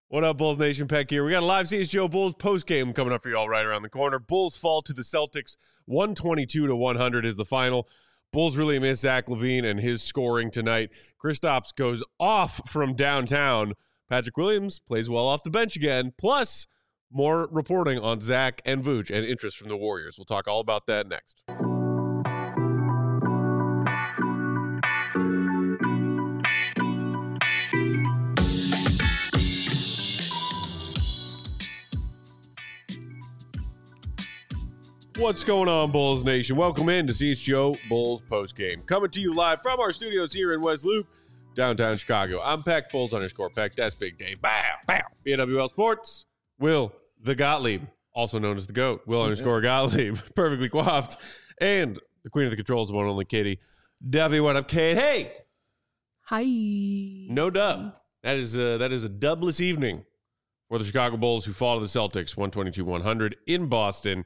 What up, Bulls Nation? Peck here. We got a live CHGO Bulls post-game coming up for you all right around the corner. Bulls fall to the Celtics. 122-100 is the final. Bulls really miss Zach LaVine and his scoring tonight. Kristaps goes off from downtown. Patrick Williams plays well off the bench again. Plus, more reporting on Zach and Vooch and interest from the Warriors. We'll talk all about that next. What's going on, Bulls Nation? Welcome in to CHGO Bulls postgame. Coming to you live from our studios here in West Loop, downtown Chicago. I'm Peck, Bulls_Peck. That's Big Dave. Bow, bow. BWL Sports, Will the Gottlieb, also known as the GOAT, Will_Gottlieb, perfectly coiffed, and the queen of the controls, the one and only Katie. Duffy, what up, Kate? Hey! Hi. No dub. That is a dubless evening for the Chicago Bulls, who fall to the Celtics 122-100 in Boston.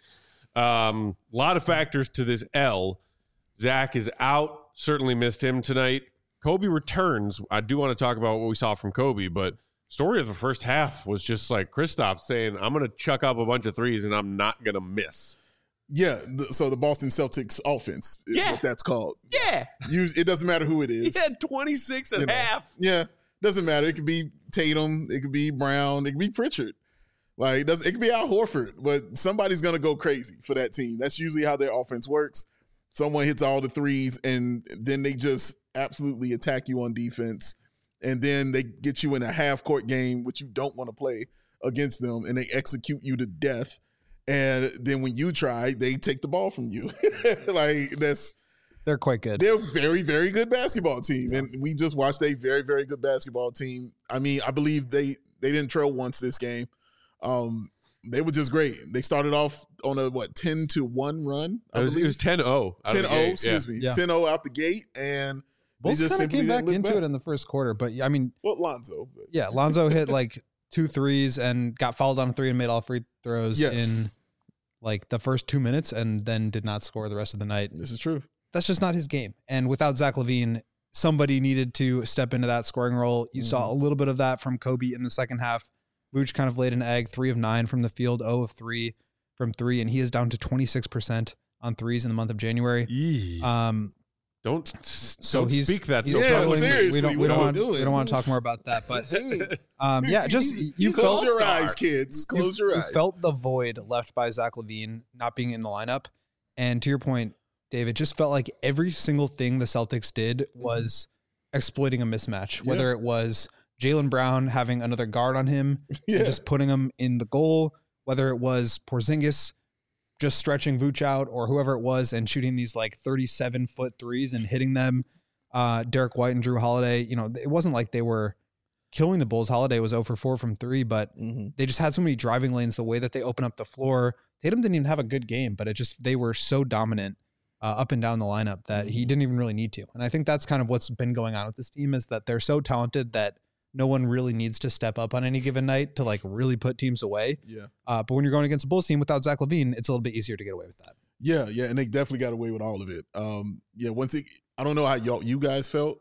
Lot of factors to this L. Zach is out. Certainly missed him tonight. Kobe returns. I do want to talk about what we saw from Kobe, but story of the first half was just like Kristaps saying, I'm going to chuck up a bunch of threes and I'm not going to miss. Yeah, so the Boston Celtics offense is what that's called. Yeah. It doesn't matter who it is. He had 26 and a half. Yeah, doesn't matter. It could be Tatum. It could be Brown. It could be Pritchard. Like, it could be Al Horford, but somebody's going to go crazy for that team. That's usually how their offense works. Someone hits all the threes, and then they just absolutely attack you on defense. And then they get you in a half-court game, which you don't want to play against them, and they execute you to death. And then when you try, they take the ball from you. They're quite good. They're a very, very good basketball team. And we just watched a very, very good basketball team. I mean, I believe they didn't trail once this game. They were just great. They started off on a 10-1 run. It was 10-0. 10-0, excuse me. 10-0 out the gate, and Bulls they just kind of came back into it in the first quarter. But I mean, Lonzo. Yeah, Lonzo hit like 2 threes and got fouled on a 3 and made all free throws in like the first 2 minutes, and then did not score the rest of the night. This is true. That's just not his game. And without Zach LaVine, somebody needed to step into that scoring role. You saw a little bit of that from Kobe in the second half. Vooch kind of laid an egg, 3 of 9 from the field, 0 of 3 from 3, and he is down to 26% on threes in the month of January. Don't speak that. So seriously, we don't want to talk more about that. But you close your eyes, kids. Close your eyes. You felt the void left by Zach LaVine not being in the lineup, and to your point, Dave, it just felt like every single thing the Celtics did was exploiting a mismatch, whether it was Jaylen Brown having another guard on him and just putting him in the goal, whether it was Porzingis just stretching Vooch out or whoever it was and shooting these like 37-foot threes and hitting them. Derek White and Drew Holiday, it wasn't like they were killing the Bulls. Holiday was 0 for 4 from 3, but they just had so many driving lanes, the way that they open up the floor. Tatum didn't even have a good game, but they were so dominant up and down the lineup that he didn't even really need to. And I think that's kind of what's been going on with this team, is that they're so talented that no one really needs to step up on any given night to like really put teams away. Yeah. But when you're going against a Bulls team without Zach LaVine, it's a little bit easier to get away with that. Yeah, and they definitely got away with all of it. I don't know how you guys felt,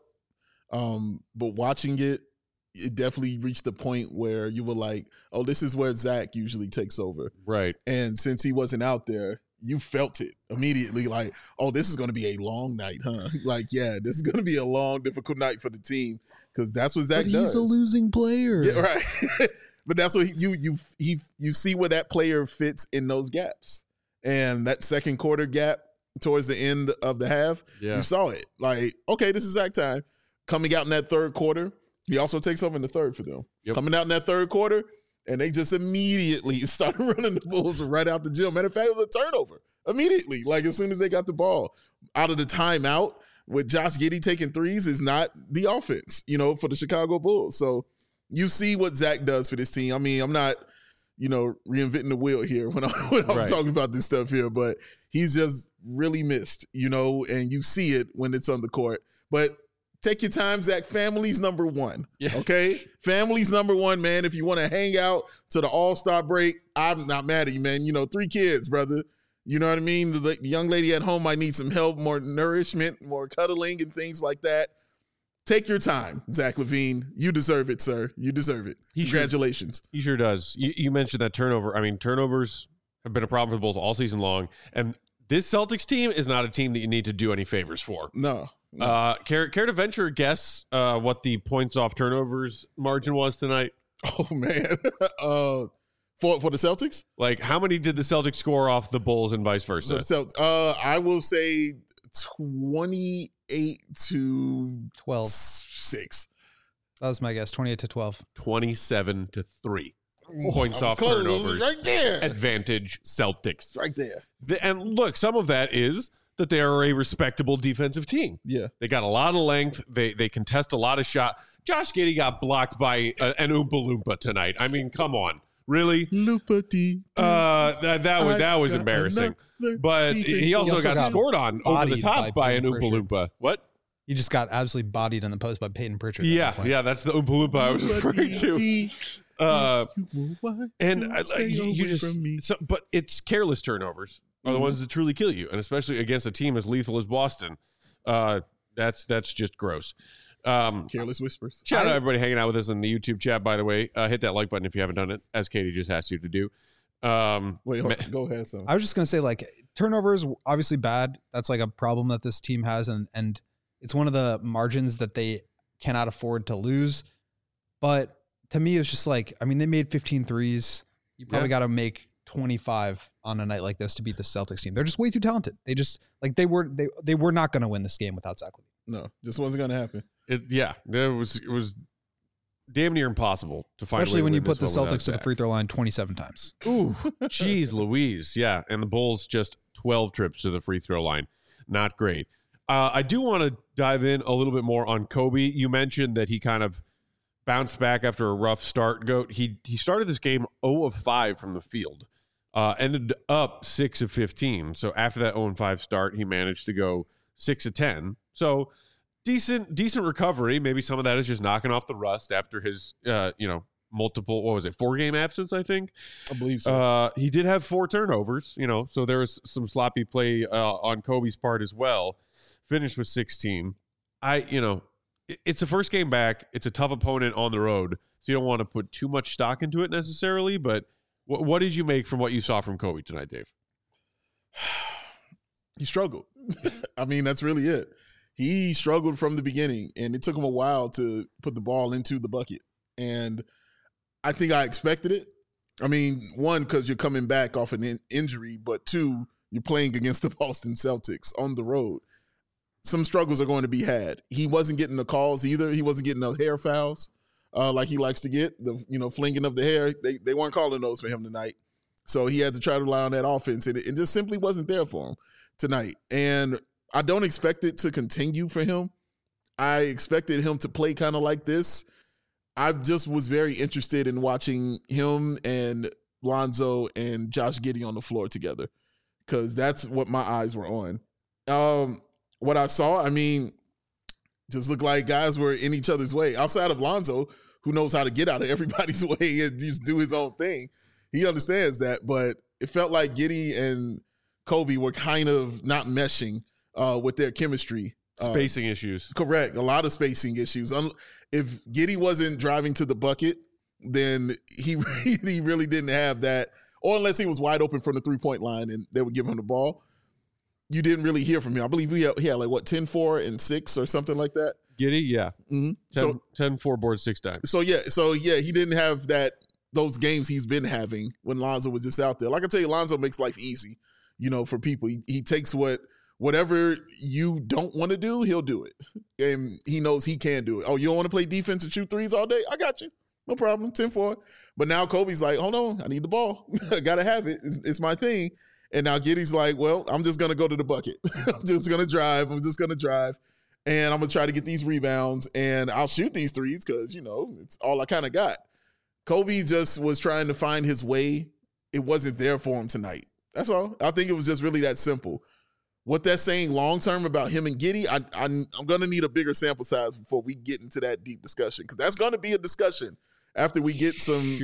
but watching it definitely reached the point where you were like, oh, this is where Zach usually takes over. Right. And since he wasn't out there, you felt it immediately, like, oh, this is going to be a long night, huh? Like, yeah, this is going to be a long, difficult night for the team. Because that's what Zach does. He's a losing player. Yeah, right. But that's what you see where that player fits in those gaps. And that second quarter gap towards the end of the half, you saw it. Like, okay, this is Zach time. Coming out in that third quarter, he also takes over in the third for them. Yep. Coming out in that third quarter, and they just immediately started running the Bulls right out the gym. Matter of fact, it was a turnover immediately. Like, as soon as they got the ball out of the timeout, with Josh Giddey taking threes is not the offense, for the Chicago Bulls. So you see what Zach does for this team. I mean, I'm not, reinventing the wheel here when I'm talking about this stuff here, but he's just really missed, and you see it when it's on the court. But take your time, Zach. Family's number one, okay? Family's number one, man. If you want to hang out to the All-Star break, I'm not mad at you, man. 3 kids, brother. You know what I mean? The young lady at home might need some help, more nourishment, more cuddling and things like that. take your time, Zach LaVine. You deserve it, sir. You deserve it. Congratulations. He sure does. You mentioned that turnover. I mean, turnovers have been a problem for the Bulls all season long. And this Celtics team is not a team that you need to do any favors for. No. Care to venture a guess what the points off turnovers margin was tonight? Oh, man. For the Celtics? Like, how many did the Celtics score off the Bulls and vice versa? So, I will say 28 to 12. 6. That was my guess. 28 to 12. 27 to 3. Points off close. turnovers. Right there. Advantage Celtics. Right there. And look, some of that is that they are a respectable defensive team. Yeah. They got a lot of length. They contest a lot of shot. Josh Giddey got blocked by an Oompa Loompa tonight. I mean, come on. Really? That was embarrassing. But he also got scored on over the top by an Oompa Loompa. What? He just got absolutely bodied in the post by Peyton Pritchard. Yeah, that's the Oompa Loompa I was referring to. But it's careless turnovers are the ones that truly kill you, and especially against a team as lethal as Boston. That's just gross. Careless whispers. Shout out everybody hanging out with us in the YouTube chat, by the way. Hit that like button if you haven't done it, as Katie just asked you to do. Wait, go ahead, son. I was just going to say, like, turnovers, obviously bad. That's like a problem that this team has, and it's one of the margins that they cannot afford to lose. But to me, it's just like, I mean, they made 15 threes. You probably got to make 25 on a night like this to beat the Celtics team. They're just way too talented. They just, like, they were not going to win this game without Zach LaVine. No, just wasn't going to happen. It was damn near impossible to find. Especially when you put the Celtics to the free throw line 27 times. Ooh, geez, Louise. Yeah, and the Bulls just 12 trips to the free throw line. Not great. I do want to dive in a little bit more on Kobe. You mentioned that he kind of bounced back after a rough start. He started this game 0 of 5 from the field, ended up 6 of 15. So after that 0 of 5 start, he managed to go 6 of 10. So decent recovery. Maybe some of that is just knocking off the rust after his multiple, 4-game absence, I think. I believe so. He did have 4 turnovers, so there was some sloppy play on Kobe's part as well. Finished with 16. It's a first game back. It's a tough opponent on the road, so you don't want to put too much stock into it necessarily, but what did you make from what you saw from Kobe tonight, Dave? He struggled. I mean, that's really it. He struggled from the beginning, and it took him a while to put the ball into the bucket. And I think I expected it. I mean, 1, because you're coming back off an injury, but 2, you're playing against the Boston Celtics on the road. Some struggles are going to be had. He wasn't getting the calls either. He wasn't getting the hair fouls like he likes to get, the flinging of the hair. They weren't calling those for him tonight. So he had to try to rely on that offense, and it just simply wasn't there for him tonight. And I don't expect it to continue for him. I expected him to play kind of like this. I just was very interested in watching him and Lonzo and Josh Giddey on the floor together because that's what my eyes were on. What I saw, I mean, just looked like guys were in each other's way. Outside of Lonzo, who knows how to get out of everybody's way and just do his own thing. He understands that, but it felt like Giddey and Kobe were kind of not meshing with their chemistry. Spacing issues. Correct. A lot of spacing issues. If Giddey wasn't driving to the bucket, then he really didn't have that. Or unless he was wide open from the three-point line and they would give him the ball, you didn't really hear from him. I believe he had 10, 4, and 6 or something like that. Giddey, yeah. Mm-hmm. 10, 4 boards 6 times. So he didn't have those games he's been having when Lonzo was just out there. Like I tell you, Lonzo makes life easy, for people. He takes whatever you don't want to do, he'll do it. And he knows he can do it. Oh, you don't want to play defense and shoot threes all day? I got you. No problem. 10-4. But now Kobe's like, hold on, I need the ball. I got to have it. It's my thing. And now Giddey's like, well, I'm just going to go to the bucket. I'm just going to drive. And I'm going to try to get these rebounds. And I'll shoot these threes because, it's all I kind of got. Kobe just was trying to find his way. It wasn't there for him tonight. That's all. I think it was just really that simple. What that's saying long-term about him and Giddey, I'm going to need a bigger sample size before we get into that deep discussion because that's going to be a discussion after we get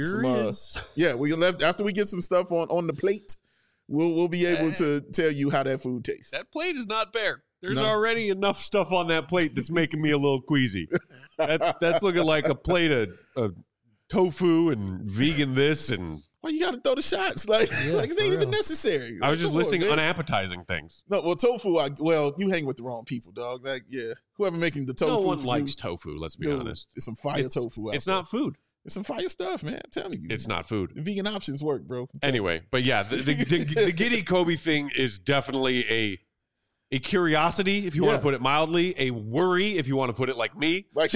after we get some stuff on the plate. We'll be able to tell you how that food tastes. That plate is not bare. There's already enough stuff on that plate that's making me a little queasy. That's looking like a plate of tofu and vegan this and. Well, you got to throw the shots. Like it ain't even necessary. I was just listing unappetizing things. No, well, tofu, you hang with the wrong people, dog. Like, yeah. Whoever making the tofu. No one likes tofu, let's be honest. It's some fire tofu out It's not food. It's some fire stuff, man. I'm telling you. It's not food. The vegan options work, bro. Anyway, but yeah, the Giddey Kobe thing is definitely a curiosity, if you want to put it mildly, a worry, if you want to put it like me. Like,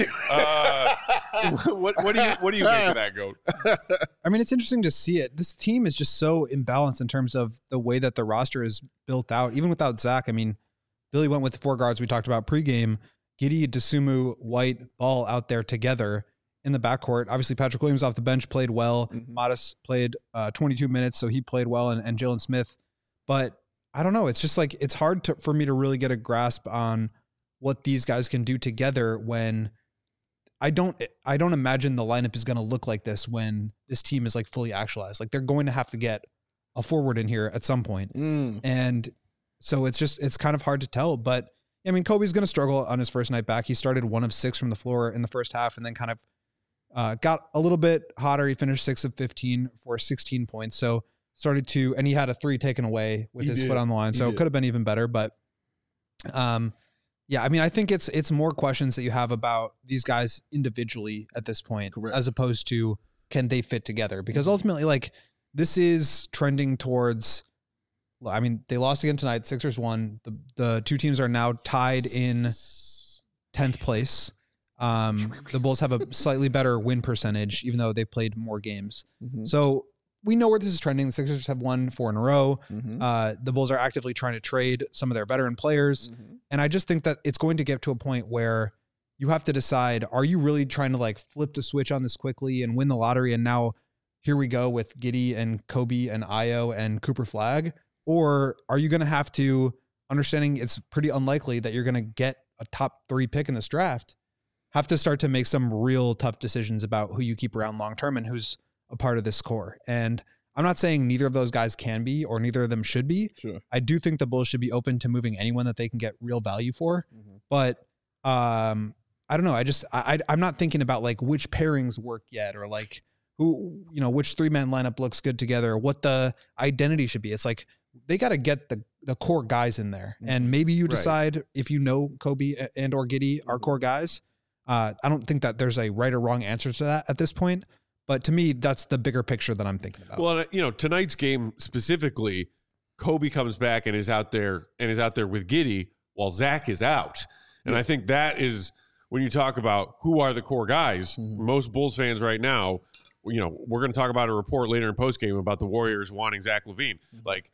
what do you make of that, Goat? I mean, it's interesting to see it. This team is just so imbalanced in terms of the way that the roster is built out. Even without Zach, I mean, Billy went with the 4 guards we talked about pregame. Giddey, Dosunmu, White, Ball out there together in the backcourt. Obviously, Patrick Williams off the bench played well. Mm-hmm. Modest played 22 minutes, so he played well, and Jalen Smith. But I don't know. It's just like it's hard for me to really get a grasp on what these guys can do together when I don't imagine the lineup is going to look like this when this team is like fully actualized. Like they're going to have to get a forward in here at some point. And so it's kind of hard to tell, but I mean, Kobe's going to struggle on his first night back. He started 1 of 6 from the floor in the first half and then kind of got a little bit hotter. He finished 6 of 15 for 16 points. So and he had a 3 taken away with his foot on the line. So it could have been even better, but yeah, I mean, I think it's more questions that you have about these guys individually at this point, as opposed to can they fit together? Because ultimately, like this is trending towards, I mean, they lost again tonight. Sixers won. The two teams are now tied in 10th place. The Bulls have a slightly better win percentage, even though they've played more games. Mm-hmm. So we know where this is trending. The Sixers have won 4 in a row. Mm-hmm. The Bulls are actively trying to trade some of their veteran players. Mm-hmm. And I just think that it's going to get to a point where you have to decide, are you really trying to like flip the switch on this quickly and win the lottery? And now here we go with Giddey and Kobe and Ayo and Cooper Flagg. Or are you going to have to, understanding it's pretty unlikely that you're going to get a top 3 pick in this draft, have to start to make some real tough decisions about who you keep around long-term and who's a part of this core. And I'm not saying neither of those guys can be, or neither of them should be. Sure. I do think the Bulls should be open to moving anyone that they can get real value for. Mm-hmm. But I don't know. I'm not thinking about like which pairings work yet, or like who, which 3-man lineup looks good together, or what the identity should be. It's like, they got to get the core guys in there. Mm-hmm. And maybe you decide if Kobe and or Giddey are core guys. I don't think that there's a right or wrong answer to that at this point. But to me, that's the bigger picture that I'm thinking about. Well, tonight's game specifically, Kobe comes back and is out there with Giddey while Zach is out. And I think that is when you talk about who are the core guys, most Bulls fans right now, we're going to talk about a report later in postgame about the Warriors wanting Zach LaVine. Like,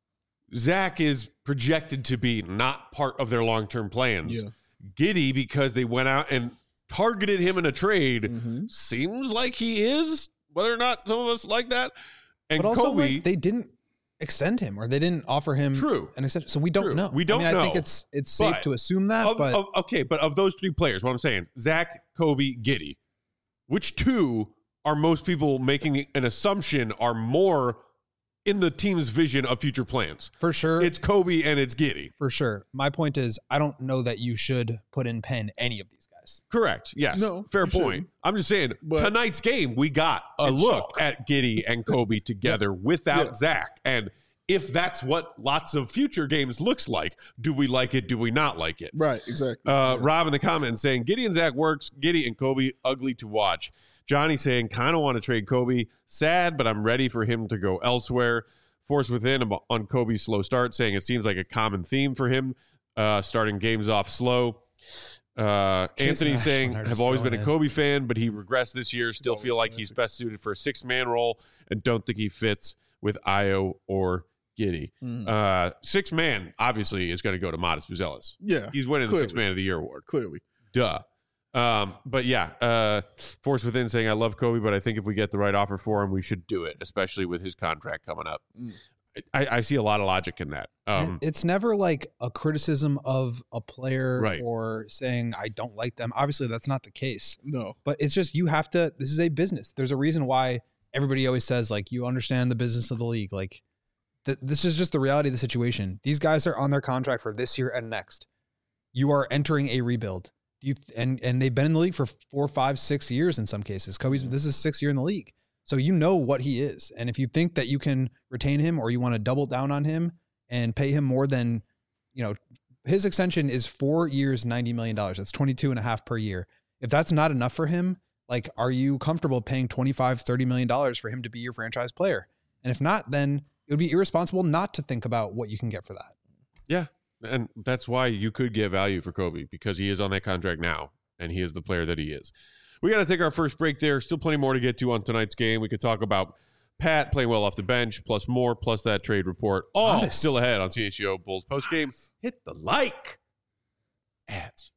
Zach is projected to be not part of their long-term plans. Yeah. Giddey, because they went out and targeted him in a trade, seems like he is, whether or not some of us like that. And but also, Kobe, they didn't extend him, or they didn't offer him an extension. So we don't know. We don't know. I think it's safe to assume that. But of those 3 players, what I'm saying, Zach, Kobe, Giddey, which 2 are most people making an assumption are more in the team's vision of future plans? For sure. It's Kobe and it's Giddey. For sure. My point is, I don't know that you should put in pen any of these guys. Correct. Yes. No, fair point. I'm just saying, tonight's game, we got a look at Giddey and Kobe together without Zach. And if that's what lots of future games looks like, do we like it? Do we not like it? Right. Exactly. Rob in the comments saying, Giddey and Zach works. Giddey and Kobe, ugly to watch. Johnny saying, kind of want to trade Kobe. Sad, but I'm ready for him to go elsewhere. Force Within on Kobe's slow start, saying it seems like a common theme for him, starting games off slow. Anthony saying, have always been a Kobe fan, but he regressed this year. Still feel like he's best suited for a 6-man role and don't think he fits with Ayo or Giddey. 6-man, obviously, is going to go to Modest Buzelis. Yeah. He's winning the 6-man of the year award. Clearly. Duh. But yeah, Force Within saying, I love Kobe, but I think if we get the right offer for him, we should do it, especially with his contract coming up. I see a lot of logic in that. It's never like a criticism of a player or saying I don't like them. Obviously, that's not the case. No. But it's just this is a business. There's a reason why everybody always says, like, you understand the business of the league. Like, this is just the reality of the situation. These guys are on their contract for this year and next. you are entering a rebuild. And they've been in the league for 4, 5, 6 years in some cases. Kobe's, this is his 6th year in the league. So you know what he is. And if you think that you can retain him or you want to double down on him and pay him more than, his extension is 4 years, $90 million. That's 22.5 per year. If that's not enough for him, like, are you comfortable paying $25, $30 million for him to be your franchise player? And if not, then it would be irresponsible not to think about what you can get for that. Yeah. And that's why you could get value for Kobe, because he is on that contract now and he is the player that he is. We got to take our first break there. Still plenty more to get to on tonight's game. We could talk about Pat playing well off the bench, plus more, plus that trade report. All still ahead on CHGO Bulls postgame. Hit the like. Ads.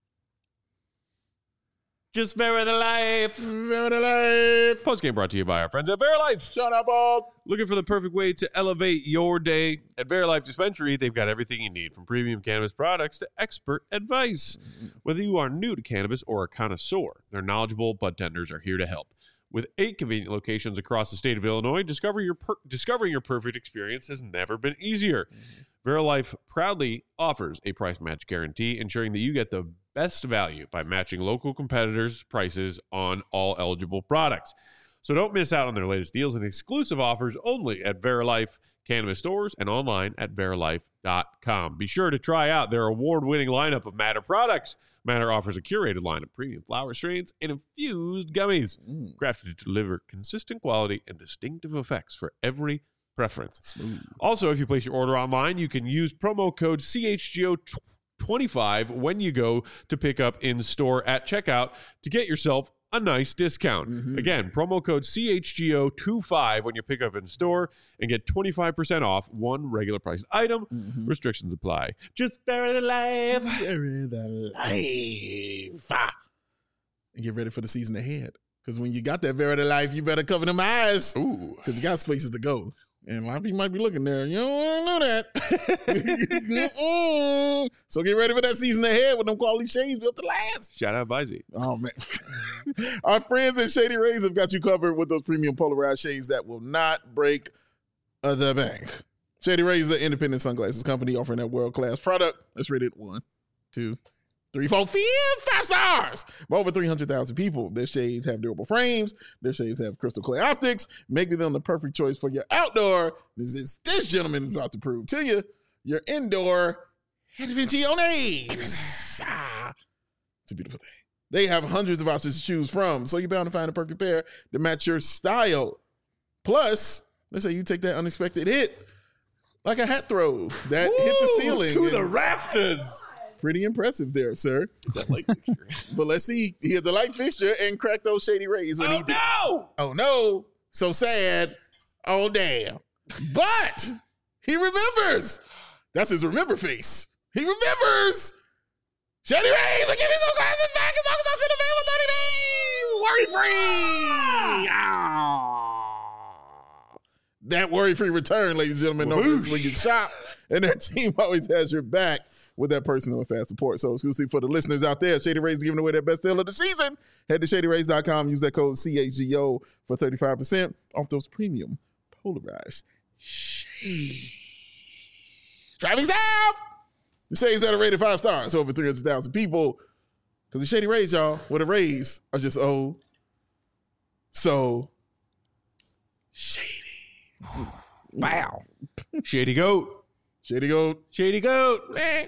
Just Veri the Life. Veri the Life. Postgame brought to you by our friends at VeriLife. Shut up, Bob. Looking for the perfect way to elevate your day? At VeriLife Dispensary, they've got everything you need, from premium cannabis products to expert advice. Whether you are new to cannabis or a connoisseur, their knowledgeable bud tenders are here to help. With 8 convenient locations across the state of Illinois, discovering your perfect experience has never been easier. VeriLife proudly offers a price match guarantee, ensuring that you get the best value by matching local competitors' prices on all eligible products. So don't miss out on their latest deals and exclusive offers only at VeriLife cannabis stores and online at verilife.com. Be sure to try out their award-winning lineup of Matter products. Matter offers a curated line of premium flower strains and infused gummies, crafted to deliver consistent quality and distinctive effects for every preference. Smooth. Also, if you place your order online, you can use promo code CHGO25 when you go to pick up in store at checkout to get yourself a nice discount. Again, promo code CHGO25 when you pick up in store and get 25% off one regular priced item. Restrictions apply. Just Veri the Life. Veri the Life. And get ready for the season ahead. Because when you got that Veri the Life, you better cover them eyes. Ooh. Because you got places to go. And a lot of people might be looking there. You don't want to know that. So get ready for that season ahead with them quality shades built to last. Shout out Visey. Oh, man. Our friends at Shady Rays have got you covered with those premium polarized shades that will not break the bank. Shady Rays is an independent sunglasses company offering that world-class product. Let's rate it 1, 2, 3, 4, 5 stars. By over 300,000 people. Their shades have durable frames. Their shades have crystal clear optics, making them the perfect choice for your outdoor. This gentleman is about to prove to you, your indoor adventures. It's a beautiful thing. They have hundreds of options to choose from, so you're bound to find a perfect pair to match your style. Plus, let's say you take that unexpected hit, like a hat throw that hit the ceiling. To the rafters. Pretty impressive there, sir. That light fixture. But let's see. He had the light fixture and cracked those Shady Rays when he did. No! Oh, no. So sad. Oh, damn. But he remembers. That's his remember face. He remembers. Shady Rays, give me some glasses back as long as I sit available 30 days. Worry-free. That worry-free return, ladies and gentlemen, known as Lincoln Shop. And that team always has your back with that personal and fast support. So exclusive for the listeners out there, Shady Rays giving away their best deal of the season. Head to ShadyRays.com. Use that code CHGO for 35% off those premium polarized shades. Driving south. The shades that are rated 5 stars, over 300,000 people. Because the Shady Rays, y'all, with the Rays are just so shady. Wow. Shady Goat. Shady Goat. Shady Goat.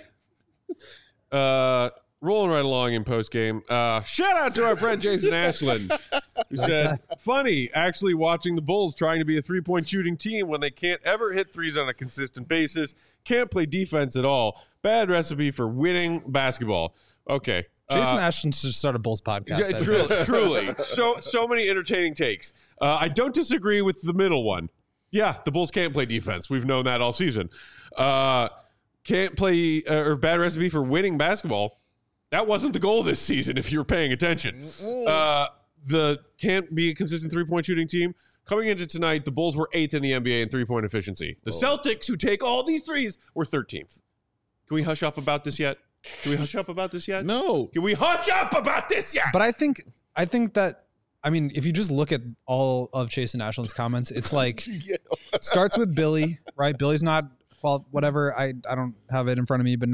Rolling right along in postgame. Shout out to our friend Jason Ashland, who said, funny, actually watching the Bulls trying to be a three-point shooting team when they can't ever hit threes on a consistent basis, can't play defense at all. Bad recipe for winning basketball. Okay. Jason Ashland should start a Bulls podcast. Yeah, truly. So many entertaining takes. I don't disagree with the middle one. Yeah, the Bulls can't play defense. We've known that all season. Can't play or bad recipe for winning basketball. That wasn't the goal this season, if you were paying attention. The can't be a consistent three-point shooting team. Coming into tonight, the Bulls were 8th in the NBA in three-point efficiency. The Celtics, who take all these threes, were 13th. Can we hush up about this yet? No. Can we hush up about this yet? But I think that, I mean, if you just look at all of Jason Ashland's comments, it's like starts with Billy, right? Billy's not, well, whatever. I don't have it in front of me, but now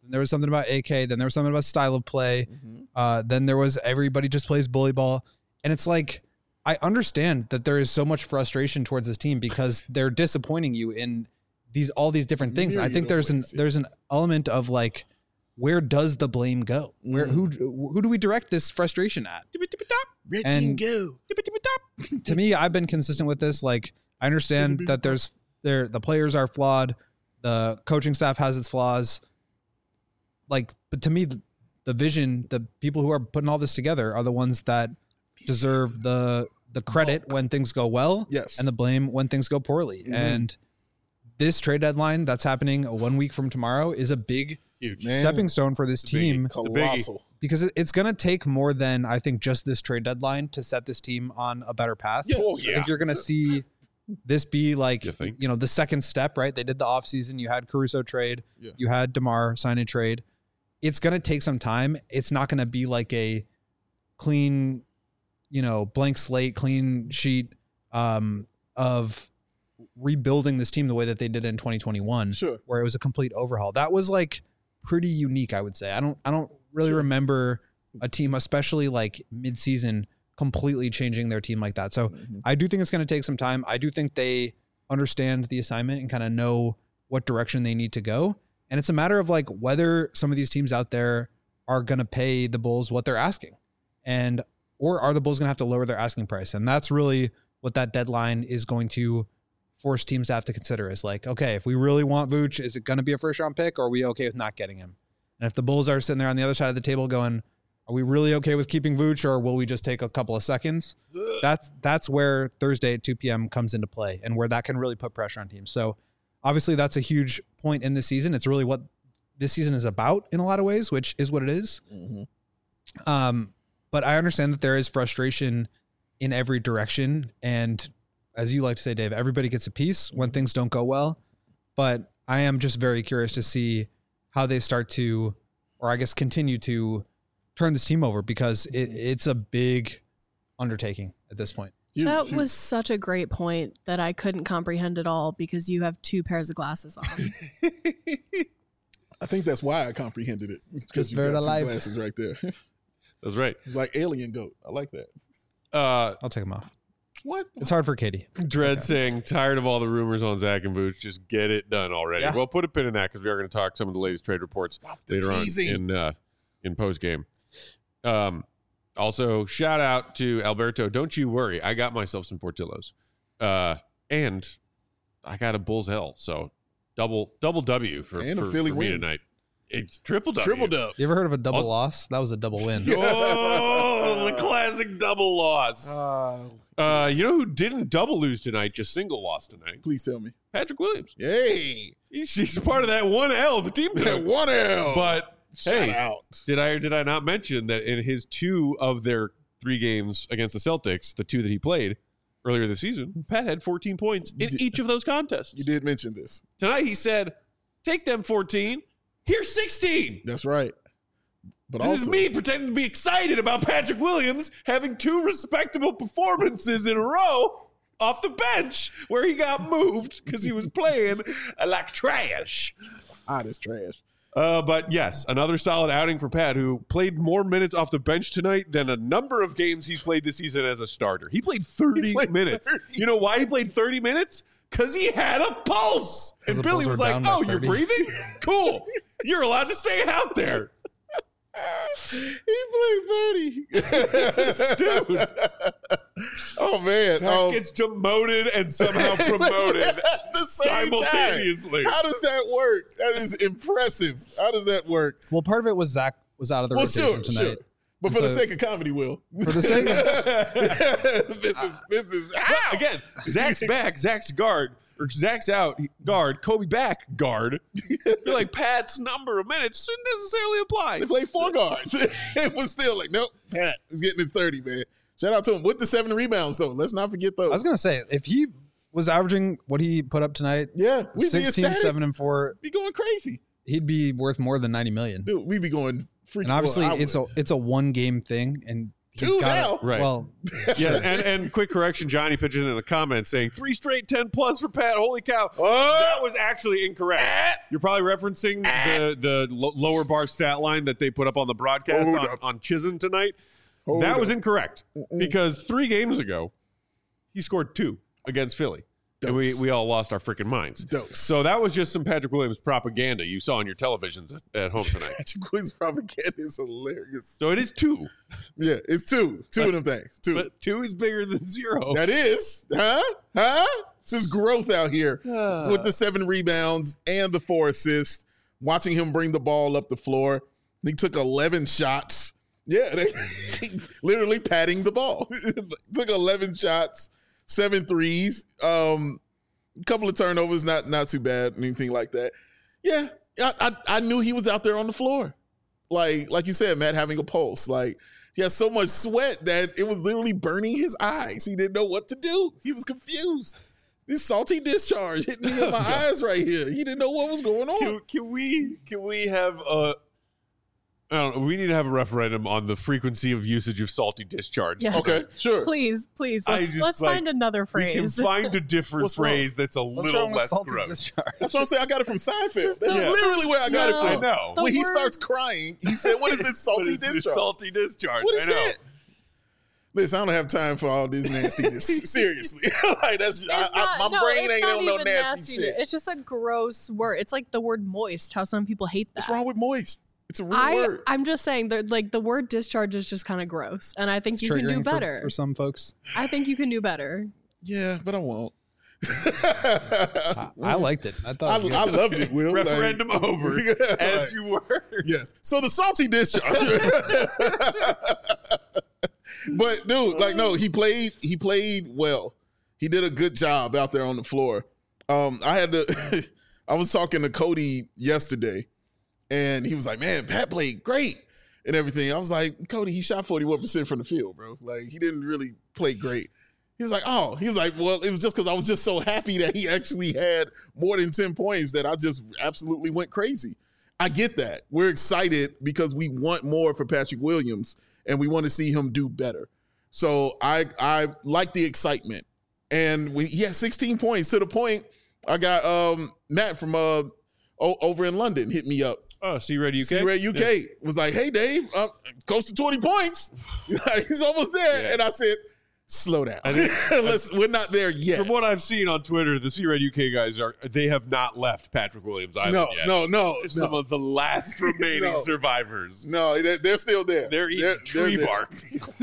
Then there was something about AK. Then there was something about style of play. Then there was everybody just plays bully ball. And it's like, I understand that there is so much frustration towards this team because they're disappointing you in all these different things. And I think there's an element of like, where does the blame go? Who do we direct this frustration at? Red team go. To me, I've been consistent with this. Like, I understand that the players are flawed, the coaching staff has its flaws. Like, but to me, the vision, the people who are putting all this together are the ones that deserve the credit when things go well, and the blame when things go poorly. And this trade deadline that's happening 1 week from tomorrow is a big stepping stone for this team. Colossal. Because it's going to take more than, I think, just this trade deadline to set this team on a better path. I think you're going to see this be like, the second step, right? They did the offseason. You had Caruso trade. You had DeMar sign and trade. It's going to take some time. It's not going to be like a clean, blank slate, clean sheet of rebuilding this team the way that they did in 2021, where it was a complete overhaul. That was like pretty unique, I would say. I don't really remember a team, especially like mid-season, completely changing their team like that. So I do think it's going to take some time. I do think they understand the assignment and kind of know what direction they need to go. And it's a matter of like whether some of these teams out there are going to pay the Bulls what they're asking, or are the Bulls going to have to lower their asking price? And that's really what that deadline is going to force teams to have to consider, is like, okay, if we really want Vooch, is it going to be a first round pick, or are we okay with not getting him? And if the Bulls are sitting there on the other side of the table going, are we really okay with keeping Vooch, or will we just take a couple of seconds? That's where Thursday at 2 p.m. comes into play, and where that can really put pressure on teams. So obviously that's a huge point in this season. It's really what this season is about in a lot of ways, which is what it is. But I understand that there is frustration in every direction. And as you like to say, Dave, everybody gets a piece when things don't go well. But I am just very curious to see how they start to, or I guess continue to, turn this team over, because it's a big undertaking at this point. That was such a great point that I couldn't comprehend at all, because you have 2 pairs of glasses on. I think that's why I comprehended it. Because you got 2 glasses right there. That's right. It's like alien goat. I like that. I'll take them off. What? It's hard for Katie. Dread saying, tired of all the rumors on Zach and Vooch. Just get it done already. Well, put a pin in that, because we are going to talk some of the latest trade reports later on in post game. Also, shout out to Alberto. Don't you worry, I got myself some Portillos, and I got a Bulls L. So double W for me tonight. It's triple W. Triple dub. You ever heard of a double loss? That was a double win. Oh, the classic double loss. You know who didn't double lose tonight, just single loss tonight? Please tell me. Patrick Williams. Hey. He's part of that 1L, the team took. That 1L. But shout out. Did I not mention that in his 2 of their 3 games against the Celtics, the 2 that he played earlier this season, Pat had 14 points in each of those contests. You did mention this. Tonight he said, take them 14. Here's 16. That's right. But this is me pretending to be excited about Patrick Williams having 2 respectable performances in a row off the bench, where he got moved because he was playing like trash. That's trash. But yes, another solid outing for Pat, who played more minutes off the bench tonight than a number of games he's played this season as a starter. He played 30 minutes. 30. You know why he played 30 minutes? Because he had a pulse. And Billy was like, oh, you're breathing? Cool. You're allowed to stay out there. He played 30. Dude. Oh, man. Pat gets demoted and somehow promoted at the same simultaneously. Time. How does that work? That is impressive. How does that work? Well, part of it was Zach was out of the rotation tonight. Sure. But for the sake of comedy, Will. For the sake of this is again, Zach's back, Zach's guard, or Zach's out, guard, Kobe back, guard. I feel like Pat's number of minutes shouldn't necessarily apply. They played 4 guards. It was still like, nope, Pat is getting his 30, man. Shout out to him with the 7 rebounds, though. Let's not forget those. I was going to say, if he was averaging what he put up tonight, 16, 7, and 4, be going crazy. He'd be worth more than $90 million. Dude, we'd be going freaking. And obviously, it's a 1 game thing, and 2 now. Right. Well, Yeah, and quick correction, Johnny pitches in the comments saying 3 straight 10+ for Pat. Holy cow. That was actually incorrect. You're probably referencing the lower bar stat line that they put up on the broadcast on Chisholm tonight. That was incorrect because 3 games ago, he scored 2 against Philly. And we all lost our freaking minds. So that was just some Patrick Williams propaganda you saw on your televisions at home tonight. Patrick Williams propaganda is hilarious. So it is 2. Yeah, it's 2. 2 of them things. 2. But 2 is bigger than 0. That is. Huh? This is growth out here. With the 7 rebounds and the 4 assists. Watching him bring the ball up the floor. He took 11 shots. Yeah, they literally patting the ball. Took 11 shots. 7 threes, a couple of turnovers, not too bad, anything like that. Yeah, I knew he was out there on the floor. Like you said, Matt, having a pulse. Like, he had so much sweat that it was literally burning his eyes. He didn't know what to do. He was confused. This salty discharge hitting me in my eyes right here. He didn't know what was going on. Can we have a... I don't know. We need to have a referendum on the frequency of usage of salty discharge. Yes. Okay, sure. Please. Let's find another phrase. We can find a different phrase that's a little less gross. Discharge? That's what I'm saying. I got it from Seinfeld. That's Yeah. literally where I got it from. I know. When he starts crying, he said, "What is this salty discharge?" Salty discharge. That's what he I know. said. Listen, I don't have time for all this nastiness. Seriously, like that's my brain ain't on no nasty shit. It's just a gross word. It's like the word moist. How some people hate that. What's wrong with moist? It's a real word. I'm just saying, the word discharge is just kind of gross, and I think you can do better. For some folks, I think you can do better. Yeah, but I won't. I liked it. I thought I loved it. Will Referendum over as you were. Yes. So the salty discharge. But dude, no, he played well. He did a good job out there on the floor. I was talking to Cody yesterday. And he was like, man, Pat played great and everything. I was like, Cody, he shot 41% from the field, bro. Like, he didn't really play great. He was like, well, it was just because I was just so happy that he actually had more than 10 points that I just absolutely went crazy. I get that. We're excited because we want more for Patrick Williams and we want to see him do better. So I like the excitement. And he had 16 points to the point I got Matt from over in London hit me up. Oh, C-Red UK? C-Red UK was like, hey, Dave, close to 20 points. He's almost there. Yeah. And I said, slow down. We're not there yet. From what I've seen on Twitter, the C-Red UK guys they have not left Patrick Williams Island yet. No. Some of the last remaining survivors. No, they're still there. They're eating tree bark.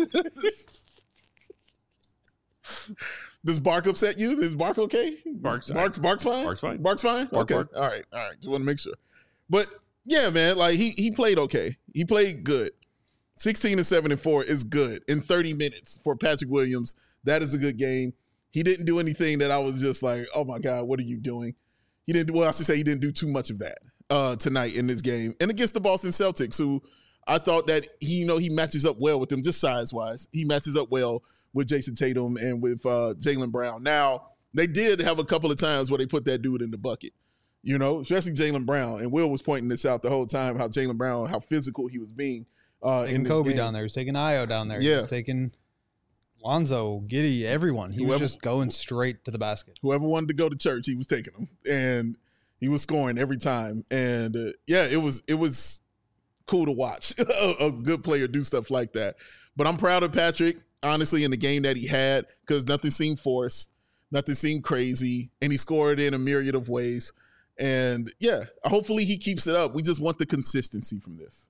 Does bark upset you? Is bark okay? Bark's fine. Bark's fine? Bark's fine. Bark's fine? Bark. All right. Just want to make sure. But yeah, man, like he played okay. He played good. 16-7-4 is good in 30 minutes for Patrick Williams. That is a good game. He didn't do anything that I was just like, oh my God, what are you doing? He didn't. Well, I should say he didn't do too much of that tonight in this game and against the Boston Celtics, who I thought that he matches up well with them, just size wise. He matches up well with Jason Tatum and with Jaylen Brown. Now they did have a couple of times where they put that dude in the bucket. Especially Jaylen Brown. And Will was pointing this out the whole time, how Jaylen Brown, how physical he was being in this Kobe game. down there. He was taking Io down there. Yeah. He was taking Lonzo, Giddey, everyone. He was just going straight to the basket. Whoever wanted to go to church, he was taking them. And he was scoring every time. And, it was cool to watch a good player do stuff like that. But I'm proud of Patrick, honestly, in the game that he had, because nothing seemed forced. Nothing seemed crazy. And he scored in a myriad of ways. And hopefully he keeps it up. We just want the consistency from this.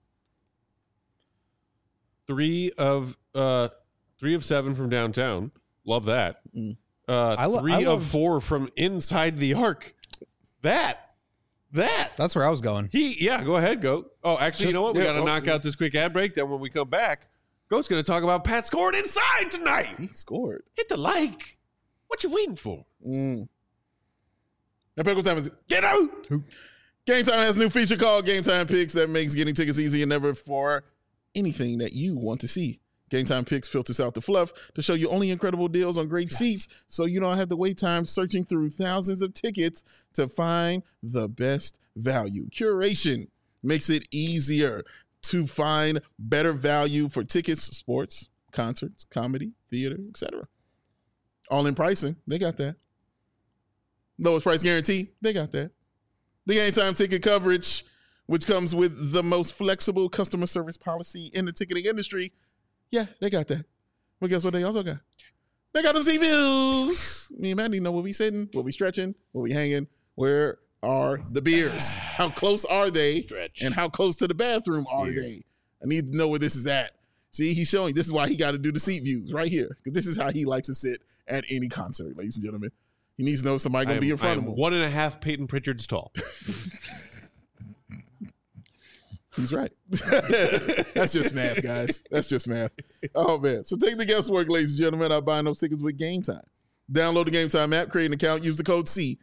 3 of 7 from downtown. Love that. 3 of 4 from inside the arc. That. That's where I was going. Go ahead, Goat. Oh, actually, you know what? We got to knock out this quick ad break. Then when we come back, Goat's going to talk about Pat scoring inside tonight. He scored. Hit the like. What you waiting for? Now, what time is it? Get out! Game Time has a new feature called Game Time Picks that makes getting tickets easier than ever for anything that you want to see. Game Time Picks filters out the fluff to show you only incredible deals on great seats, so you don't have to wait time searching through thousands of tickets to find the best value. Curation makes it easier to find better value for tickets, sports, concerts, comedy, theater, etc. All in pricing, they got that. Lowest price guarantee, they got that. The Game Time ticket coverage, which comes with the most flexible customer service policy in the ticketing industry, yeah, they got that. But guess what they also got? They got them sea views. Me and Matt need to know where we sitting, where we stretching, where we hanging, where are the beers? How close are they? Stretch. And how close to the bathroom are they? I need to know where this is at. See, he's showing, this is why he got to do the seat views right here, because this is how he likes to sit at any concert, ladies and gentlemen. He needs to know somebody going to be in front of him. 1.5 Peyton Pritchards tall. He's right. That's just math, guys. That's just math. Oh, man. So take the guesswork, ladies and gentlemen, out buying those tickets with Game Time. Download the Game Time app, create an account, use the code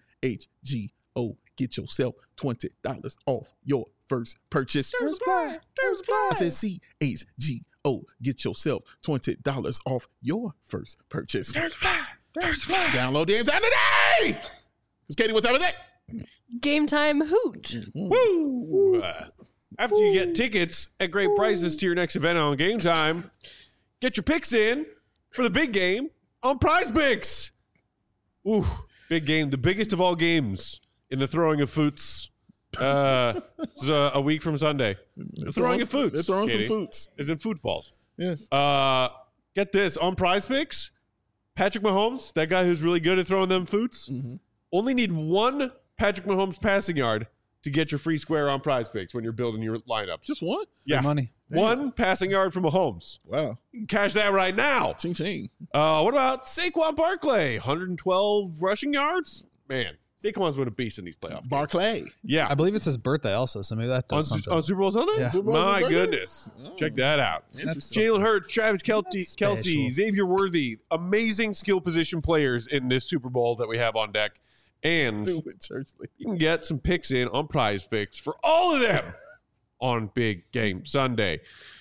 CHGO. Get yourself $20 off your first purchase. I said CHGO. Get yourself $20 off your first purchase. Download the Game Time today. Because Katie, what time is it? Game Time hoot. Woo! After you get tickets at great prices to your next event on Game Time, get your picks in for the big game on Prize Picks. Ooh, big game, the biggest of all games in the throwing of foots. It's a week from Sunday. The throwing of foots. They're throwing Katie, some foots. is in footballs. Yes. Get this, on Prize Picks, Patrick Mahomes, that guy who's really good at throwing them foots, only need one Patrick Mahomes passing yard to get your free square on Prize Picks when you're building your lineups. Just one? Yeah. Good money. One passing yard from Mahomes. Wow. You can cash that right now. Ching ching. What about Saquon Barkley? 112 rushing yards? Man, Saquon's been a beast in these playoff games. Barclay. Yeah. I believe it's his birthday also, so maybe that On, does something. on Super Bowl Sunday? Yeah. Super Bowl My Sunday? goodness. Check that out. Interesting. Jalen Hurts, Travis Kelce, special. Xavier Worthy. Amazing skill position players in this Super Bowl that we have on deck. And Stupid church league. you can get some picks in on Prize Picks for all of them on Big Game Sunday.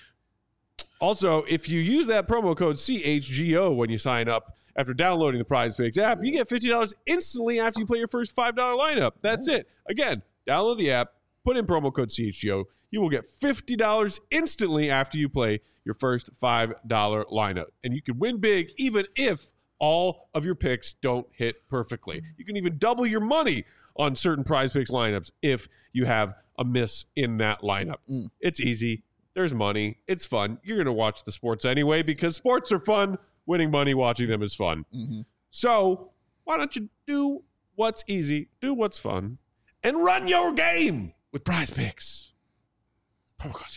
Also, if you use that promo code CHGO when you sign up after downloading the Prize Picks app, you get $50 instantly after you play your first $5 lineup. That's it. Again, download the app, put in promo code CHGO. You will get $50 instantly after you play your first $5 lineup. And you can win big even if all of your picks don't hit perfectly. You can even double your money on certain Prize Picks lineups if you have a miss in that lineup. It's easy. There's money. It's fun. You're going to watch the sports anyway because sports are fun. Winning money watching them is fun. So why don't you do what's easy, do what's fun, and run your game with Prize Picks. Promo code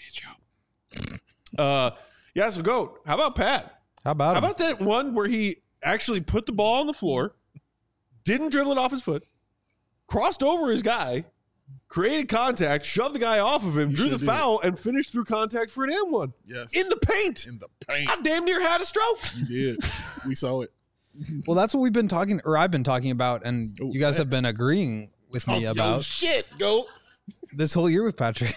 CHGO. Yeah, so GOAT. How about Pat? How about How him? about that one where he actually put the ball on the floor, didn't dribble it off his foot, crossed over his guy, created contact, shoved the guy off of him, drew the foul, and finished through contact for an M1. Yes. In the paint. In the paint. I damn near had a stroke. You did. We saw it. Well, that's what we've been talking, or I've been talking about, and Oh, you guys have facts. been agreeing with me Talk about your shit, GOAT. this whole year with Patrick.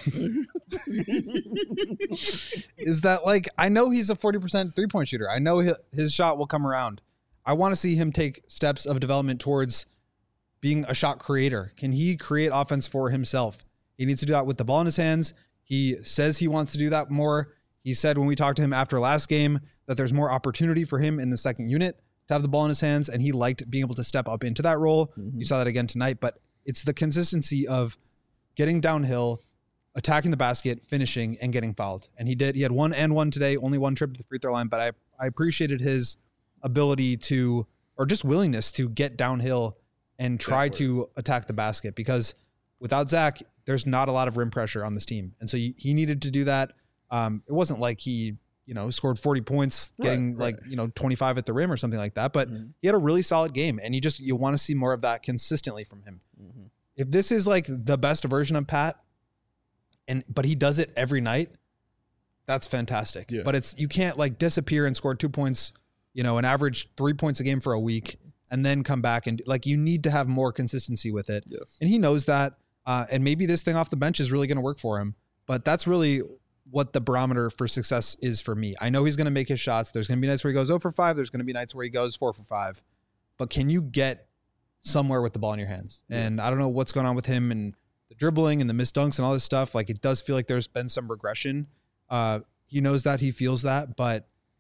Is that, like, I know he's a 40% three-point shooter. I know his shot will come around. I want to see him take steps of development towards being a shot creator. Can he create offense for himself? He needs to do that with the ball in his hands. He says he wants to do that more. He said when we talked to him after last game that there's more opportunity for him in the second unit to have the ball in his hands, and he liked being able to step up into that role. You saw that again tonight, but it's the consistency of getting downhill, attacking the basket, finishing, and getting fouled. And he did. He had 1 and 1 today, only one trip to the free throw line, but I appreciated his ability to, or just willingness to get downhill and try to attack the basket, because without Zach, there's not a lot of rim pressure on this team. And so he needed to do that. It wasn't like he, scored 40 points, getting 25 at the rim or something like that, but he had a really solid game, and you want to see more of that consistently from him. If this is like the best version of Pat, but he does it every night, that's fantastic. Yeah. But you can't like disappear and score 2 points, an average 3 points a game for a week, and then come back and you need to have more consistency with it. Yes. And he knows that. And maybe this thing off the bench is really going to work for him, but that's really what the barometer for success is for me. I know he's going to make his shots. There's going to be nights where he goes 0 for 5. There's going to be nights where he goes 4 for 5, but can you get somewhere with the ball in your hands? Yeah. And I don't know what's going on with him and the dribbling and the missed dunks and all this stuff. Like, it does feel like there's been some regression. He knows that, he feels that, but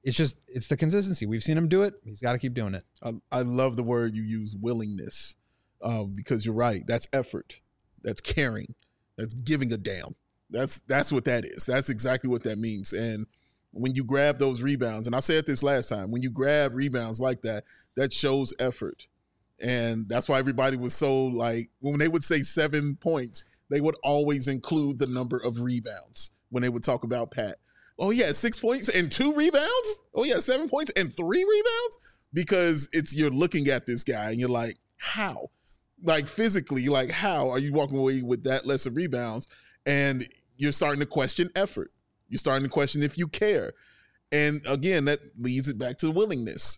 it's the consistency. We've seen him do it. He's got to keep doing it. I love the word you use, willingness, because you're right. That's effort. That's caring. That's giving a damn. That's what that is. That's exactly what that means. And when you grab those rebounds, and I said this last time, when you grab rebounds like that, that shows effort. And that's why everybody was so like, when they would say 7 points, they would always include the number of rebounds when they would talk about Pat. Oh, yeah, 6 points and 2 rebounds? Oh, yeah, 7 points and 3 rebounds? Because you're looking at this guy and you're like, how? Like physically, like how are you walking away with that less of rebounds? And you're starting to question effort. You're starting to question if you care. And again, that leads it back to the willingness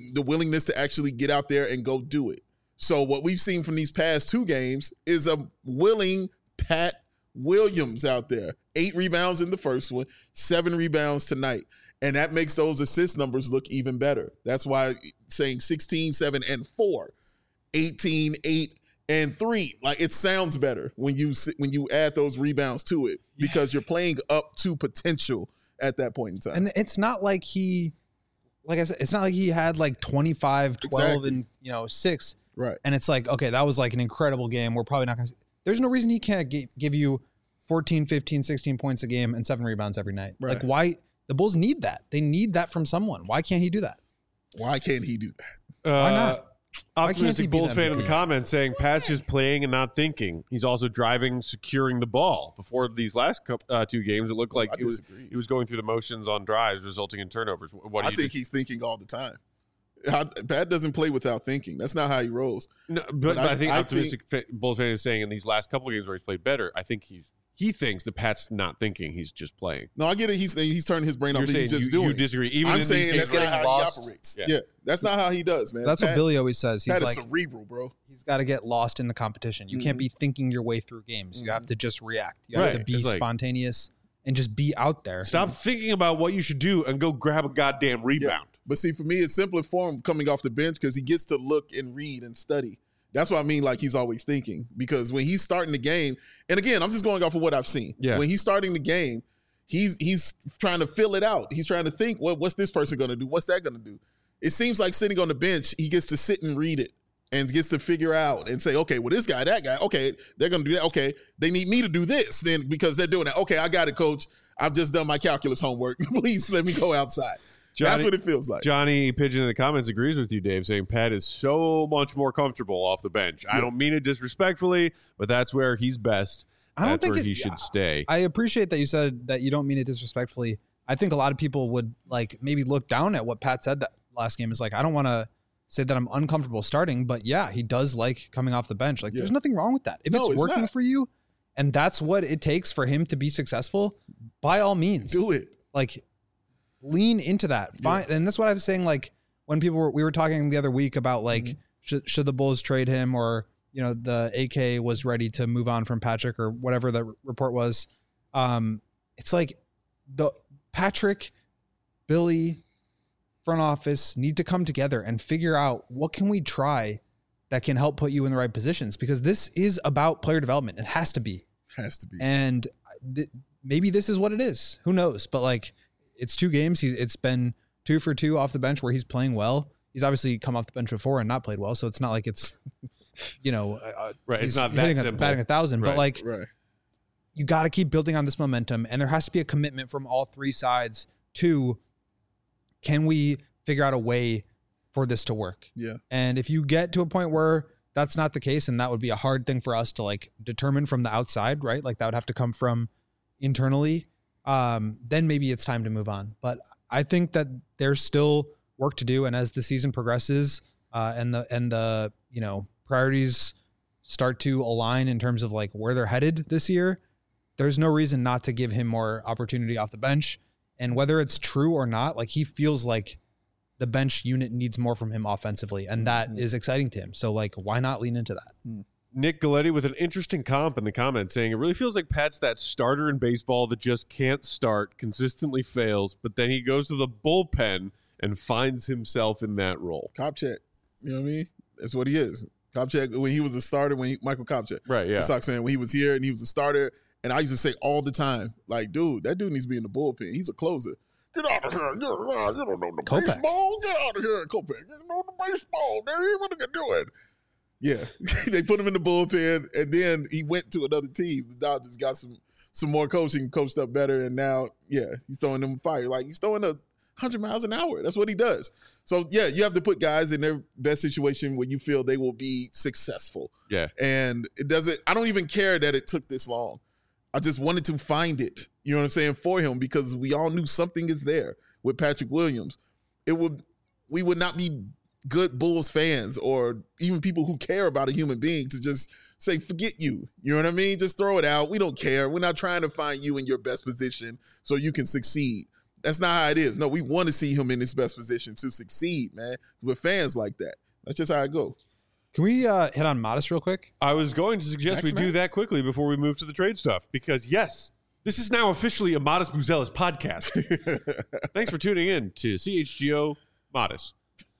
to actually get out there and go do it. So what we've seen from these past 2 games is a willing Pat Williams out there. 8 rebounds in the first one, 7 rebounds tonight. And that makes those assist numbers look even better. That's why saying 16, 7, and 4, 18, 8, and 3, like it sounds better when you add those rebounds to it because you're playing up to potential at that point in time. And it's not like like I said, it's not like he had like 25, 12, and 6. Right. And it's like, okay, that was like an incredible game. We're probably not going to there's no reason he can't give you 14, 15, 16 points a game and 7 rebounds every night. Right. Like why the Bulls need that. They need that from someone. Why can't he do that? Why can't he do that? Why not? Optimistic Bulls fan in the comments saying Pat's just playing and not thinking. He's also driving, securing the ball. Before these last 2 games, it looked like he was going through the motions on drives, resulting in turnovers. I think he's thinking all the time. Pat doesn't play without thinking. That's not how he rolls. No, but I think optimistic Bulls fan is saying in these last couple of games where he's played better, I think he thinks that Pat's not thinking. He's just playing. No, I get it. He's turning his brain off. He's just doing. You disagree. Even I'm saying that's not how he operates. Yeah, that's not how he does, man. That's what Billy always says. He's Pat like is cerebral, bro. He's got to get lost in the competition. You can't be thinking your way through games. You have to just react. You have to be spontaneous and just be out there. Stop thinking about what you should do and go grab a goddamn rebound. Yeah. But see, for me, it's simpler for him coming off the bench because he gets to look and read and study. That's what I mean, like he's always thinking. Because when he's starting the game, and again, I'm just going off of what I've seen. Yeah. When he's starting the game, he's trying to fill it out. He's trying to think, what's this person going to do? What's that going to do? It seems like sitting on the bench, he gets to sit and read it and gets to figure out and say, okay, well, this guy, that guy, okay, they're going to do that. Okay, they need me to do this then because they're doing that. Okay, I got it, coach. I've just done my calculus homework. Please let me go outside. That's what it feels like. Johnny Pigeon in the comments agrees with you, Dave, saying Pat is so much more comfortable off the bench. Yeah. I don't mean it disrespectfully, but that's where he's best. That's where he should stay. I appreciate that you said that you don't mean it disrespectfully. I think a lot of people would like maybe look down at what Pat said that last game is like, I don't want to say that I'm uncomfortable starting, but yeah, he does like coming off the bench. Like there's nothing wrong with that. If it's working for you and that's what it takes for him to be successful, by all means. Do it. Like lean into that. Fine. And that's what I was saying. Like when we were talking the other week about like, should the Bulls trade him or, the AK was ready to move on from Patrick or whatever the report was. It's like the Patrick, Billy, front office need to come together and figure out what can we try that can help put you in the right positions because this is about player development. It has to be. And maybe this is what it is. Who knows? But like, it's 2 games. It's been 2 for 2 off the bench where he's playing well. He's obviously come off the bench before and not played well. So it's not like it's, right. It's not that simple. Batting 1,000, but like right. You got to keep building on this momentum. And there has to be a commitment from all 3 sides to, can we figure out a way for this to work? Yeah. And if you get to a point where that's not the case, and that would be a hard thing for us to like determine from the outside, right? Like that would have to come from internally. Then maybe it's time to move on. But I think that there's still work to do. And as the season progresses, and the priorities start to align in terms of like where they're headed this year, there's no reason not to give him more opportunity off the bench. And whether it's true or not, like he feels like the bench unit needs more from him offensively. And that is exciting to him. So like, why not lean into that? Nick Galletti with an interesting comp in the comments saying it really feels like Pat's that starter in baseball that just can't start, consistently fails, but then he goes to the bullpen and finds himself in that role. Kopech, you know what I mean? That's what he is. Kopech, when he was a starter, Michael Kopech, right? Yeah, the Sox fan, when he was here and he was a starter, and I used to say all the time, like, dude, that dude needs to be in the bullpen. He's a closer. Get out of here. You don't know the Kopech. baseball. Get out of here, Kopech. You don't know the baseball. What are you doing? Yeah. They put him in the bullpen, and then he went to another team. The Dodgers got some more coaching, coached up better, and now, he's throwing them fire. Like, he's throwing 100 miles an hour. That's what he does. So, you have to put guys in their best situation where you feel they will be successful. Yeah. And I don't even care that it took this long. I just wanted to find it, you know what I'm saying, for him, because we all knew something is there with Patrick Williams. We would not be good Bulls fans or even people who care about a human being to just say, forget you. You know what I mean? Just throw it out. We don't care. We're not trying to find you in your best position so you can succeed. That's not how it is. No, we want to see him in his best position to succeed, man. We're fans like that. That's just how it goes. Can we hit on Modest real quick? I was going to suggest we do that quickly before we move to the trade stuff, because yes, this is now officially a Modest Buzelis podcast. Thanks for tuning in to CHGO Modest.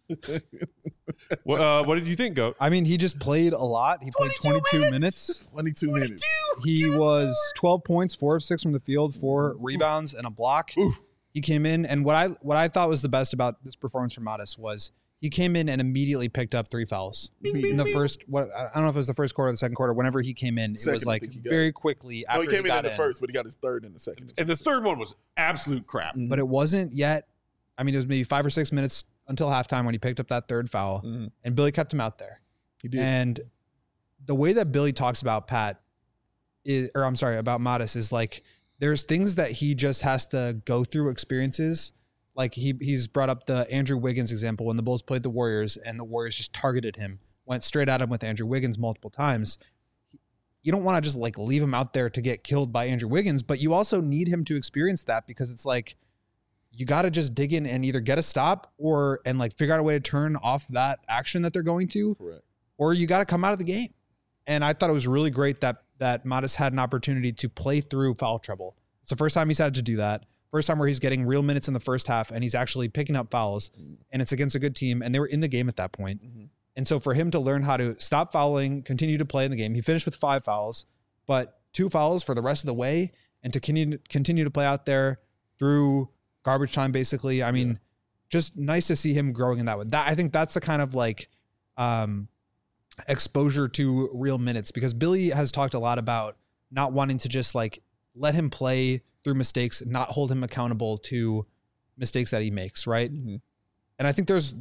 What did you think, Goat? I mean, he just played a lot. He played 22 minutes. 22 minutes. He was 12 points, 4 of 6 from the field, 4 rebounds, and a block. Ooh. He came in, and what I thought was the best about this performance from Modest was he came in and immediately picked up 3 fouls in the first. I don't know if it was the first quarter or the second quarter. Whenever he came in, it was like very quickly after he came in got the first, but he got his third in the second. And the third one was absolute crap. But it wasn't yet. I mean, it was maybe 5 or 6 minutes until halftime when he picked up that third foul, and Billy kept him out there. He did. And the way that Billy talks about about Modest is like there's things that he just has to go through experiences. Like he's brought up the Andrew Wiggins example when the Bulls played the Warriors and the Warriors just targeted him, went straight at him with Andrew Wiggins multiple times. You don't want to just like leave him out there to get killed by Andrew Wiggins, but you also need him to experience that, because it's like you got to just dig in and either get a stop and like figure out a way to turn off that action that they're going to. Correct. Or you got to come out of the game. And I thought it was really great that Modest had an opportunity to play through foul trouble. It's the first time he's had to do that. First time where he's getting real minutes in the first half and he's actually picking up fouls, and it's against a good team, and they were in the game at that point. And so for him to learn how to stop fouling, continue to play in the game, he finished with 5 fouls, but 2 fouls for the rest of the way, and to continue to play out there through garbage time, basically. I mean, just nice to see him growing in that way. I think that's the kind of like exposure to real minutes, because Billy has talked a lot about not wanting to just like let him play through mistakes, not hold him accountable to mistakes that he makes, right? And I think there's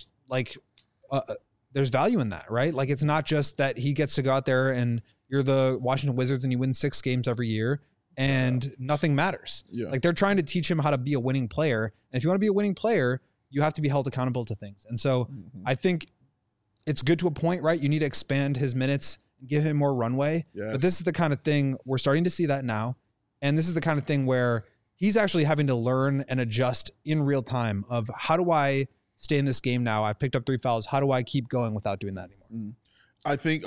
value in that, right? Like it's not just that he gets to go out there and you're the Washington Wizards and you win 6 games every year and nothing matters. Like they're trying to teach him how to be a winning player. And if you want to be a winning player, you have to be held accountable to things. And so I think it's good to a point, right? You need to expand his minutes, give him more runway. But this is the kind of thing we're starting to see that now. And this is the kind of thing where he's actually having to learn and adjust in real time of how do I stay in this game now? I've picked up 3 fouls. How do I keep going without doing that anymore? I think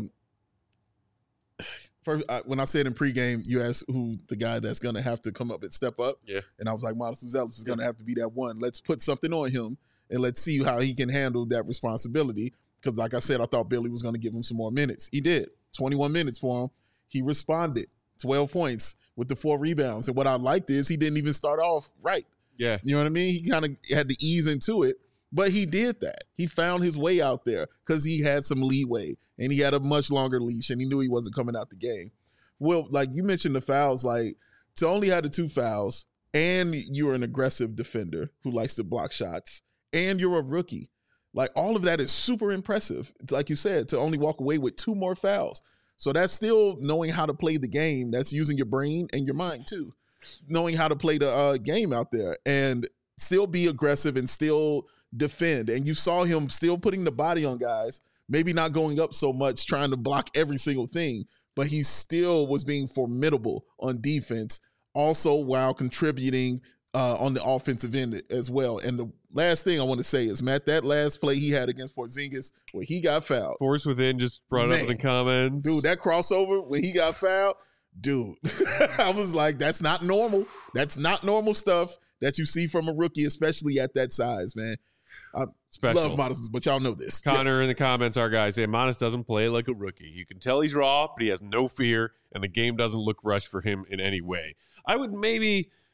first, when I said in pregame, you asked who the guy that's going to have to come up and step up. Yeah. And I was like, Modest Buzelis is going to have to be that one. Let's put something on him and let's see how he can handle that responsibility. Because like I said, I thought Billy was going to give him some more minutes. He did. 21 minutes for him. He responded. 12 points with the 4 rebounds. And what I liked is he didn't even start off right. Yeah. You know what I mean? He kind of had to ease into it, but he did that. He found his way out there because he had some leeway and he had a much longer leash and he knew he wasn't coming out the game. Well, like you mentioned the fouls, like to only have the 2 fouls and you're an aggressive defender who likes to block shots and you're a rookie. Like all of that is super impressive. Like you said, to only walk away with 2 more fouls. So that's still knowing how to play the game. That's using your brain and your mind too. Knowing how to play the game out there and still be aggressive and still defend. And you saw him still putting the body on guys, maybe not going up so much, trying to block every single thing, but he still was being formidable on defense, also while contributing on the offensive end as well. And the last thing I want to say is, Matt, that last play he had against Porzingis where he got fouled. Force Within just brought up in the comments. Dude, that crossover when he got fouled, dude, I was like, that's not normal. That's not normal stuff that you see from a rookie, especially at that size, man. I love Modest, but y'all know this. Connor in the comments, our guy, saying Modest doesn't play like a rookie. You can tell he's raw, but he has no fear, and the game doesn't look rushed for him in any way. I would maybe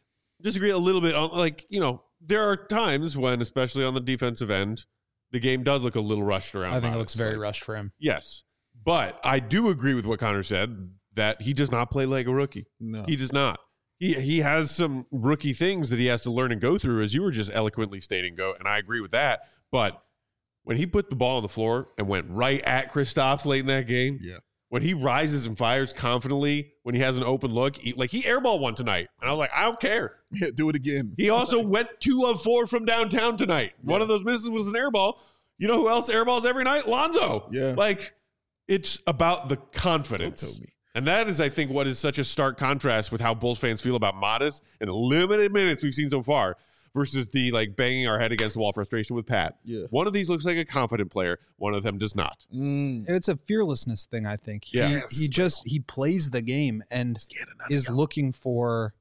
disagree a little bit on, like, there are times when, especially on the defensive end, the game does look a little rushed around. I think Modest. it looks very rushed for him. Yes. But I do agree with what Connor said, that he does not play like a rookie. No. He does not. He has some rookie things that he has to learn and go through, as you were just eloquently stating, and I agree with that. But when he put the ball on the floor and went right at Kristaps late in that game, when he rises and fires confidently, when he has an open look, he airballed one tonight. And I was like, I don't care. Yeah, do it again. He also went 2 of 4 from downtown tonight. Yeah. One of those misses was an airball. You know who else airballs every night? Lonzo. Yeah. Like, it's about the confidence. And that is, I think, what is such a stark contrast with how Bulls fans feel about Modest in the limited minutes we've seen so far versus the banging our head against the wall frustration with Pat. Yeah. One of these looks like a confident player. One of them does not. It's a fearlessness thing, I think. Yeah. He plays the game and is looking for,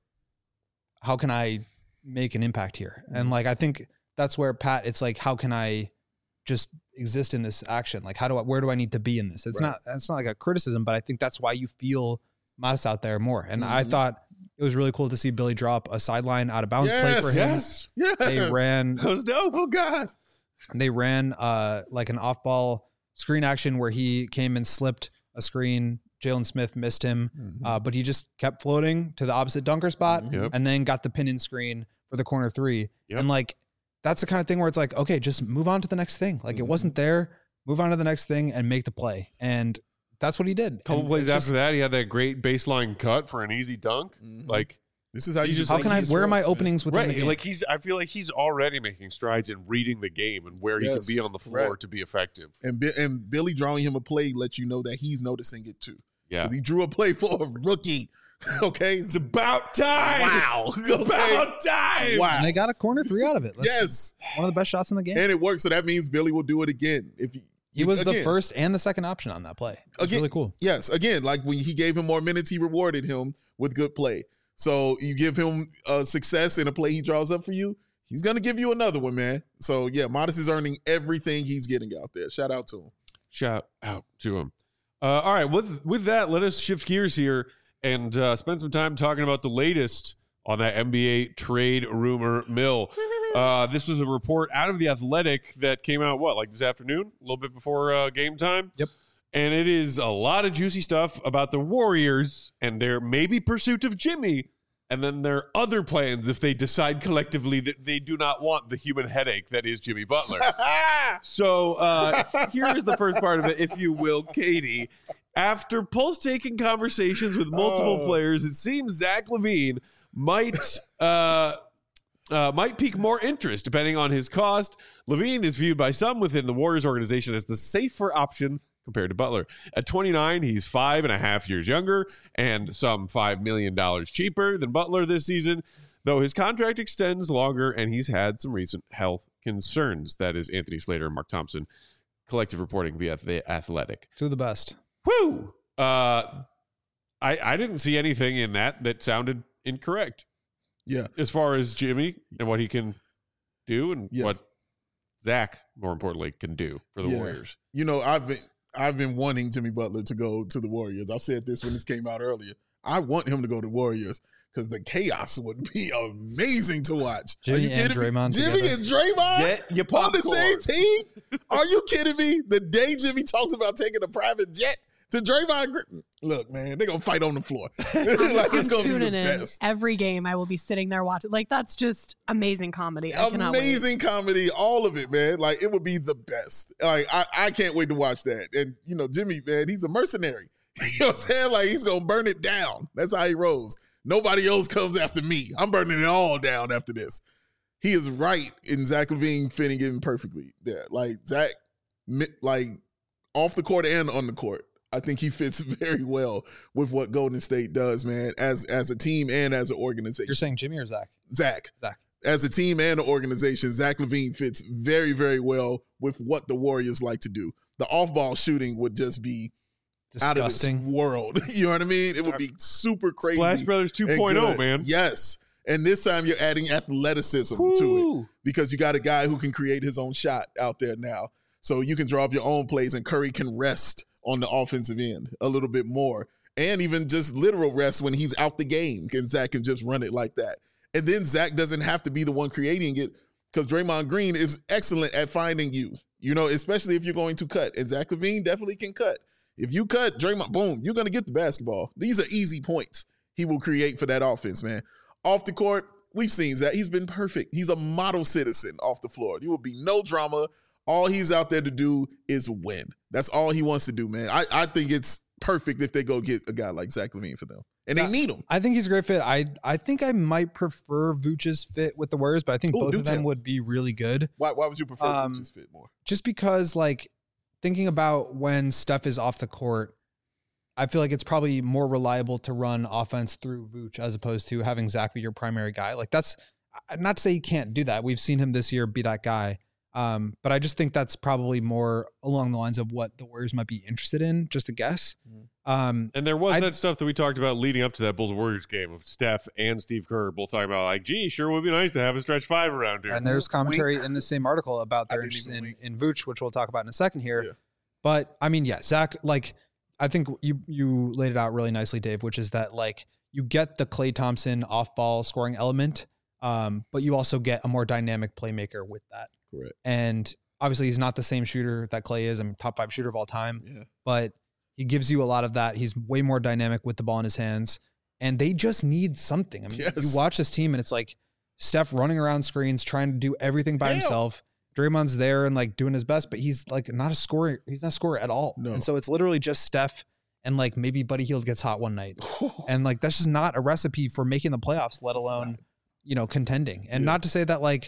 how can I make an impact here? And I think that's where Pat, it's like, how can I just exist in this action? Like, where do I need to be in this? It's not like a criticism, but I think that's why you feel Modest out there more. And I thought it was really cool to see Billy drop a sideline out of bounds play for him. Yes. They ran. That was dope. Oh God. They ran like an off ball screen action where he came and slipped a screen. Jalen Smith missed him, but he just kept floating to the opposite dunker spot and then got the pin in screen for the corner 3. And that's the kind of thing where it's like, okay, just move on to the next thing. Like, it wasn't there. Move on to the next thing and make the play. And that's what he did. A couple plays after that, he had that great baseline cut for an easy dunk. Like, this is how you just. How can where are my openings within the game? Like, I feel like he's already making strides in reading the game and where he can be on the floor to be effective. And Billy drawing him a play lets you know that he's noticing it too. Yeah. He drew a play for a rookie. Okay. It's about time. Wow. It's about time. Wow. And they got a corner 3 out of it. Yes. One of the best shots in the game. And it worked. So that means Billy will do it again. If he was the first and the second option on that play. It's really cool. Yes. Again, like when he gave him more minutes, he rewarded him with good play. So you give him success in a play he draws up for you, he's going to give you another one, man. So, yeah, Modest is earning everything he's getting out there. Shout out to him. Shout out to him. All right. With that, let us shift gears here and spend some time talking about the latest on that NBA trade rumor mill. This was a report out of The Athletic that came out, this afternoon? A little bit before game time? Yep. And it is a lot of juicy stuff about the Warriors and their maybe pursuit of Jimmy, and then their other plans if they decide collectively that they do not want the human headache that is Jimmy Butler. So here's the first part of it, if you will, Katie. After pulse-taking conversations with multiple players, it seems Zach LaVine might pique more interest depending on his cost. LaVine is viewed by some within the Warriors organization as the safer option compared to Butler. At 29, he's 5.5 years younger and some $5 million cheaper than Butler this season, though his contract extends longer and he's had some recent health concerns. That is Anthony Slater and Mark Thompson, collective reporting via The Athletic. Two of the best. Woo! I didn't see anything in that sounded incorrect. Yeah. As far as Jimmy and what he can do and what Zach, more importantly, can do for the Warriors. You know, I've been wanting Jimmy Butler to go to the Warriors. I've said this when this came out earlier. I want him to go to Warriors because the chaos would be amazing to watch. Jimmy and Draymond Jimmy and Draymond Get your popcorn. on the same team? Are you kidding me? The day Jimmy talks about taking a private jet to Draymond, look, man, they're going to fight on the floor. It's going to be the best. Every game I will be sitting there watching. That's just amazing comedy. Amazing comedy, all of it, man. It would be the best. I can't wait to watch that. And, Jimmy, man, he's a mercenary. You know what I'm saying? He's going to burn it down. That's how he rolls. Nobody else comes after me. I'm burning it all down after this. He is right in Zach LaVine fitting in perfectly there. Zach, off the court and on the court. I think he fits very well with what Golden State does, man, as a team and as an organization. You're saying Jimmy or Zach? Zach. As a team and an organization, Zach LaVine fits very, very well with what the Warriors like to do. The off-ball shooting would just be disgusting. Out of this world. You know what I mean? It would be super crazy. Splash Brothers 2.0, man. Yes. And this time you're adding athleticism to it because you got a guy who can create his own shot out there now. So you can draw up your own plays and Curry can rest on the offensive end a little bit more, and even just literal rest when he's out the game, and Zach can just run it like that. And then Zach doesn't have to be the one creating it because Draymond Green is excellent at finding you, especially if you're going to cut. And Zach LaVine definitely can cut. If you cut Draymond, boom, you're going to get the basketball. These are easy points he will create for that offense, man. Off the court, we've seen Zach. He's been perfect. He's a model citizen off the floor. There will be no drama. All he's out there to do is win. That's all he wants to do, man. I think it's perfect if they go get a guy like Zach LaVine for them. And they need him. I think he's a great fit. I think I might prefer Vooch's fit with the Warriors, but I think both of them would be really good. Why would you prefer Vooch's fit more? Just because, thinking about when Steph is off the court, I feel like it's probably more reliable to run offense through Vooch as opposed to having Zach be your primary guy. That's not to say he can't do that. We've seen him this year be that guy. But I just think that's probably more along the lines of what the Warriors might be interested in, just a guess. And there was that stuff that we talked about leading up to that Bulls-Warriors game of Steph and Steve Kerr both talking about sure would be nice to have a stretch 5 around here. And there's commentary in the same article about their interest in Vooch, which we'll talk about in a second here. Yeah. But Zach, I think you laid it out really nicely, Dave, which is that you get the Klay Thompson off-ball scoring element, but you also get a more dynamic playmaker with that. Correct. And obviously he's not the same shooter that Klay is. Top 5 shooter of all time, but he gives you a lot of that. He's way more dynamic with the ball in his hands, and they just need something. You watch this team and it's Steph running around screens, trying to do everything by himself. Draymond's there and doing his best, but he's not a scorer. He's not a scorer at all. No. And so it's literally just Steph and maybe Buddy Hield gets hot one night. And that's just not a recipe for making the playoffs, let alone, contending. And not to say that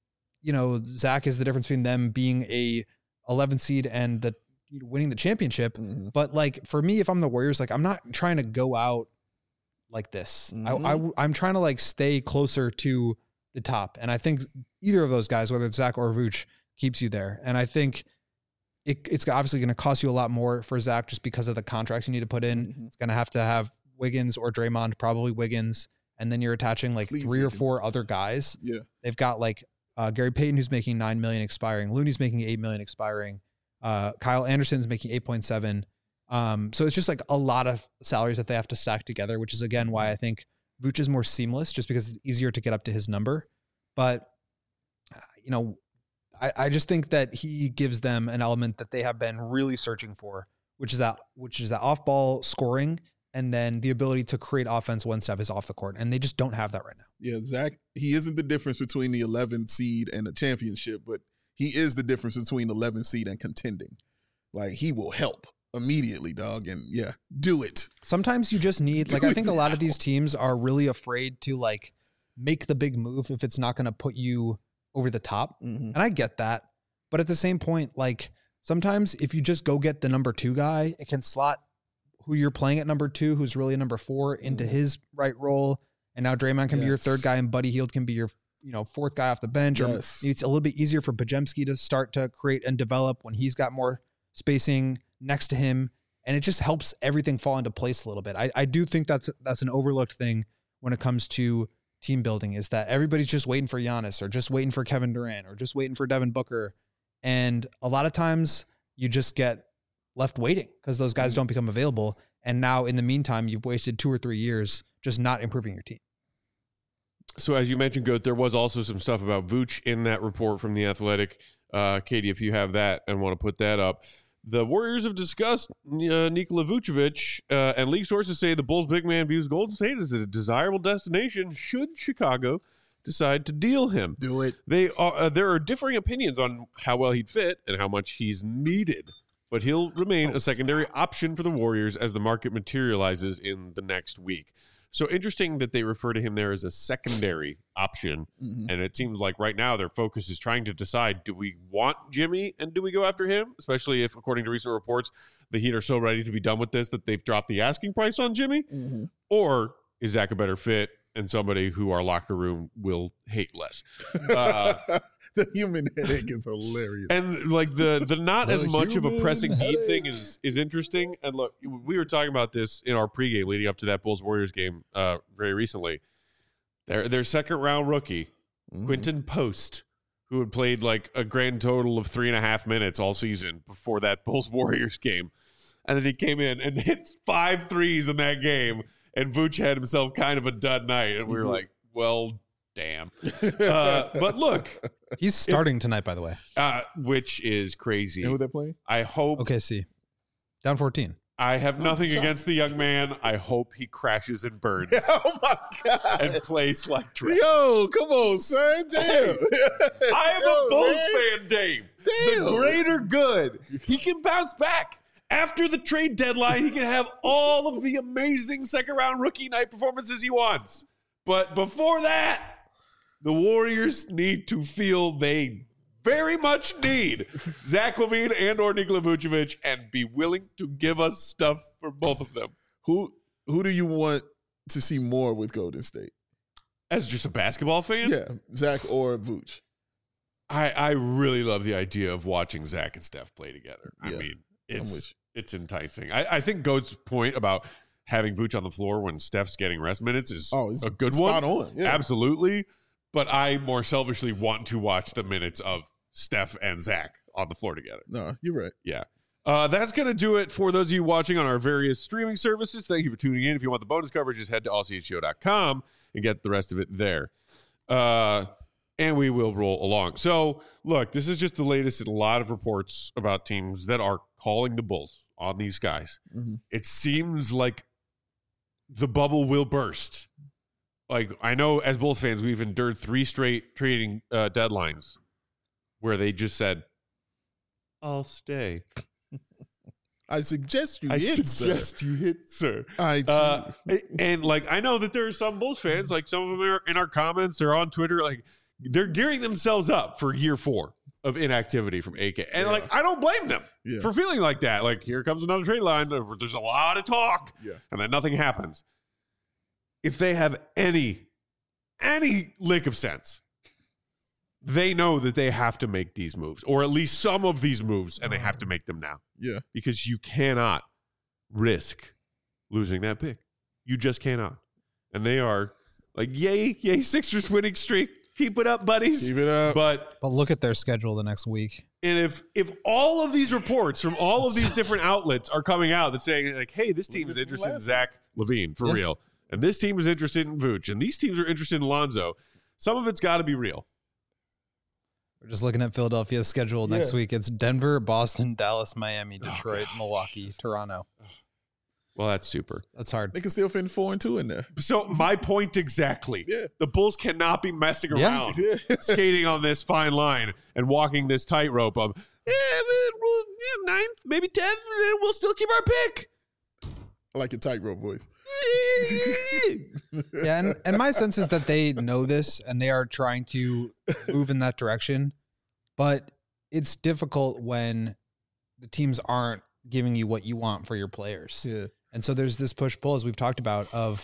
Zach is the difference between them being a 11th seed and winning the championship. Mm-hmm. But for me, if I'm the Warriors, I'm not trying to go out like this. Mm-hmm. I'm trying to stay closer to the top. And I think either of those guys, whether it's Zach or Vooch, keeps you there. And I think it's obviously going to cost you a lot more for Zach just because of the contracts you need to put in. Mm-hmm. It's going to have Wiggins or Draymond, probably Wiggins. And then you're attaching 3 or 4 other guys. Yeah. They've got Gary Payton, who's making $9 million expiring. Looney's making $8 million expiring. Kyle Anderson's making 8.7. So it's just a lot of salaries that they have to stack together, which is again why I think Vooch is more seamless, just because it's easier to get up to his number. But I just think that he gives them an element that they have been really searching for, which is that off-ball scoring and then the ability to create offense when Steph is off the court. And they just don't have that right now. Yeah, Zach, he isn't the difference between the 11th seed and the championship, but he is the difference between 11th seed and contending. He will help immediately, dog. And do it. Sometimes you just need, I think a lot of these teams are really afraid to make the big move if it's not going to put you over the top. Mm-hmm. And I get that. But at the same point, sometimes if you just go get the number 2 guy, it can slot who you're playing at number 2, who's really a number 4, into his right role. And now Draymond can be your 3rd guy and Buddy Hield can be your 4th guy off the bench. Or it's a little bit easier for Podziemski to start to create and develop when he's got more spacing next to him. And it just helps everything fall into place a little bit. I do think that's an overlooked thing when it comes to team building, is that everybody's just waiting for Giannis or just waiting for Kevin Durant or just waiting for Devin Booker. And a lot of times you just get left waiting because those guys don't become available. And now in the meantime, you've wasted 2 or 3 years just not improving your team. So as you mentioned, Goat, there was also some stuff about Vooch in that report from The Athletic. Katie, if you have that and want to put that up. The Warriors have discussed Nikola Vucevic, and league sources say the Bulls big man views Golden State as a desirable destination should Chicago decide to deal him. Do it. There are differing opinions on how well he'd fit and how much he's needed, but he'll remain a secondary option for the Warriors as the market materializes in the next week. So interesting that they refer to him there as a secondary option. Mm-hmm. And it seems like right now their focus is trying to decide, do we want Jimmy and do we go after him? Especially if, according to recent reports, the Heat are so ready to be done with this that they've dropped the asking price on Jimmy. Mm-hmm. Or is Zach a better fit and somebody who our locker room will hate less? The human headache is hilarious. And the not as much of a pressing need thing is interesting. And look, we were talking about this in our pregame leading up to that Bulls-Warriors game very recently. Their second round rookie, Quinton Post, who had played a grand total of 3.5 minutes all season before that Bulls-Warriors game. And then he came in and hit 5 threes in that game. And Vooch had himself kind of a dud night. And we were like, well, Damn. But look, He's starting tonight, by the way. which is crazy. And who they playing? I hope. OKC. Down 14. I have nothing against the young man. I hope he crashes and burns Oh my God. and plays like trash. Yo, come on, son. Damn. I am a Bulls fan, Dave. Damn. The greater good. He can bounce back. After the trade deadline, he can have all of the amazing second-round rookie night performances he wants. But before that, the Warriors need to feel they very much need Zach LaVine and or Nikola Vucevic and be willing to give us stuff for both of them. Who do you want to see more with Golden State? As just a basketball fan? Yeah, Zach or Vooch. I really love the idea of watching Zach and Steph play together. I Yeah, mean, with you. it's enticing. I think Goat's point about having Vooch on the floor when Steph's getting rest minutes is it's a good spot one. on. Yeah. Absolutely. But I more selfishly want to watch the minutes of Steph and Zach on the floor together. No, you're right. Yeah. That's going to do it for those of you watching on our various streaming services. Thank you for tuning in. If you want the bonus coverage, just head to allchgo.com and get the rest of it there. And we will roll along. So, look, this is just the latest in a lot of reports about teams that are calling the Bulls on these guys. Mm-hmm. It seems like the bubble will burst. Like, I know as Bulls fans, we've endured 3 straight trading deadlines where they just said, I'll stay. I suggest you I hit, suggest sir. you hit, sir. And like, I know that there are some Bulls fans, like some of them are in our comments or on Twitter, like they're gearing themselves up for year 4 of inactivity from AK. And like, I don't blame them for feeling like that. Like, here comes another trade line. There's a lot of talk and then nothing happens. If they have any lick of sense, they know that they have to make these moves, or at least some of these moves, and they have to make them now. Yeah. Because you cannot risk losing that pick. You just cannot. And they are like, yay, Sixers winning streak. Keep it up, buddies. Keep it up. But look at their schedule the next week. And if all of these reports from all of these different outlets are coming out that saying like, hey, this team is interested in Zach LaVine for real, and this team is interested in Vooch, and these teams are interested in Lonzo, some of it's got to be real. We're just looking at Philadelphia's schedule next week. It's Denver, Boston, Dallas, Miami, Detroit, Milwaukee, Toronto. Well, that's super. That's hard. They can still finish 4-2 in there. So my point exactly. Yeah. The Bulls cannot be messing around, skating on this fine line and walking this tightrope of, ninth, maybe 10th, and we'll still keep our pick. I like your tightrope voice. Yeah, and my sense is that they know this and they are trying to move in that direction, but it's difficult when the teams aren't giving you what you want for your players. Yeah. And so there's this push-pull, as we've talked about, of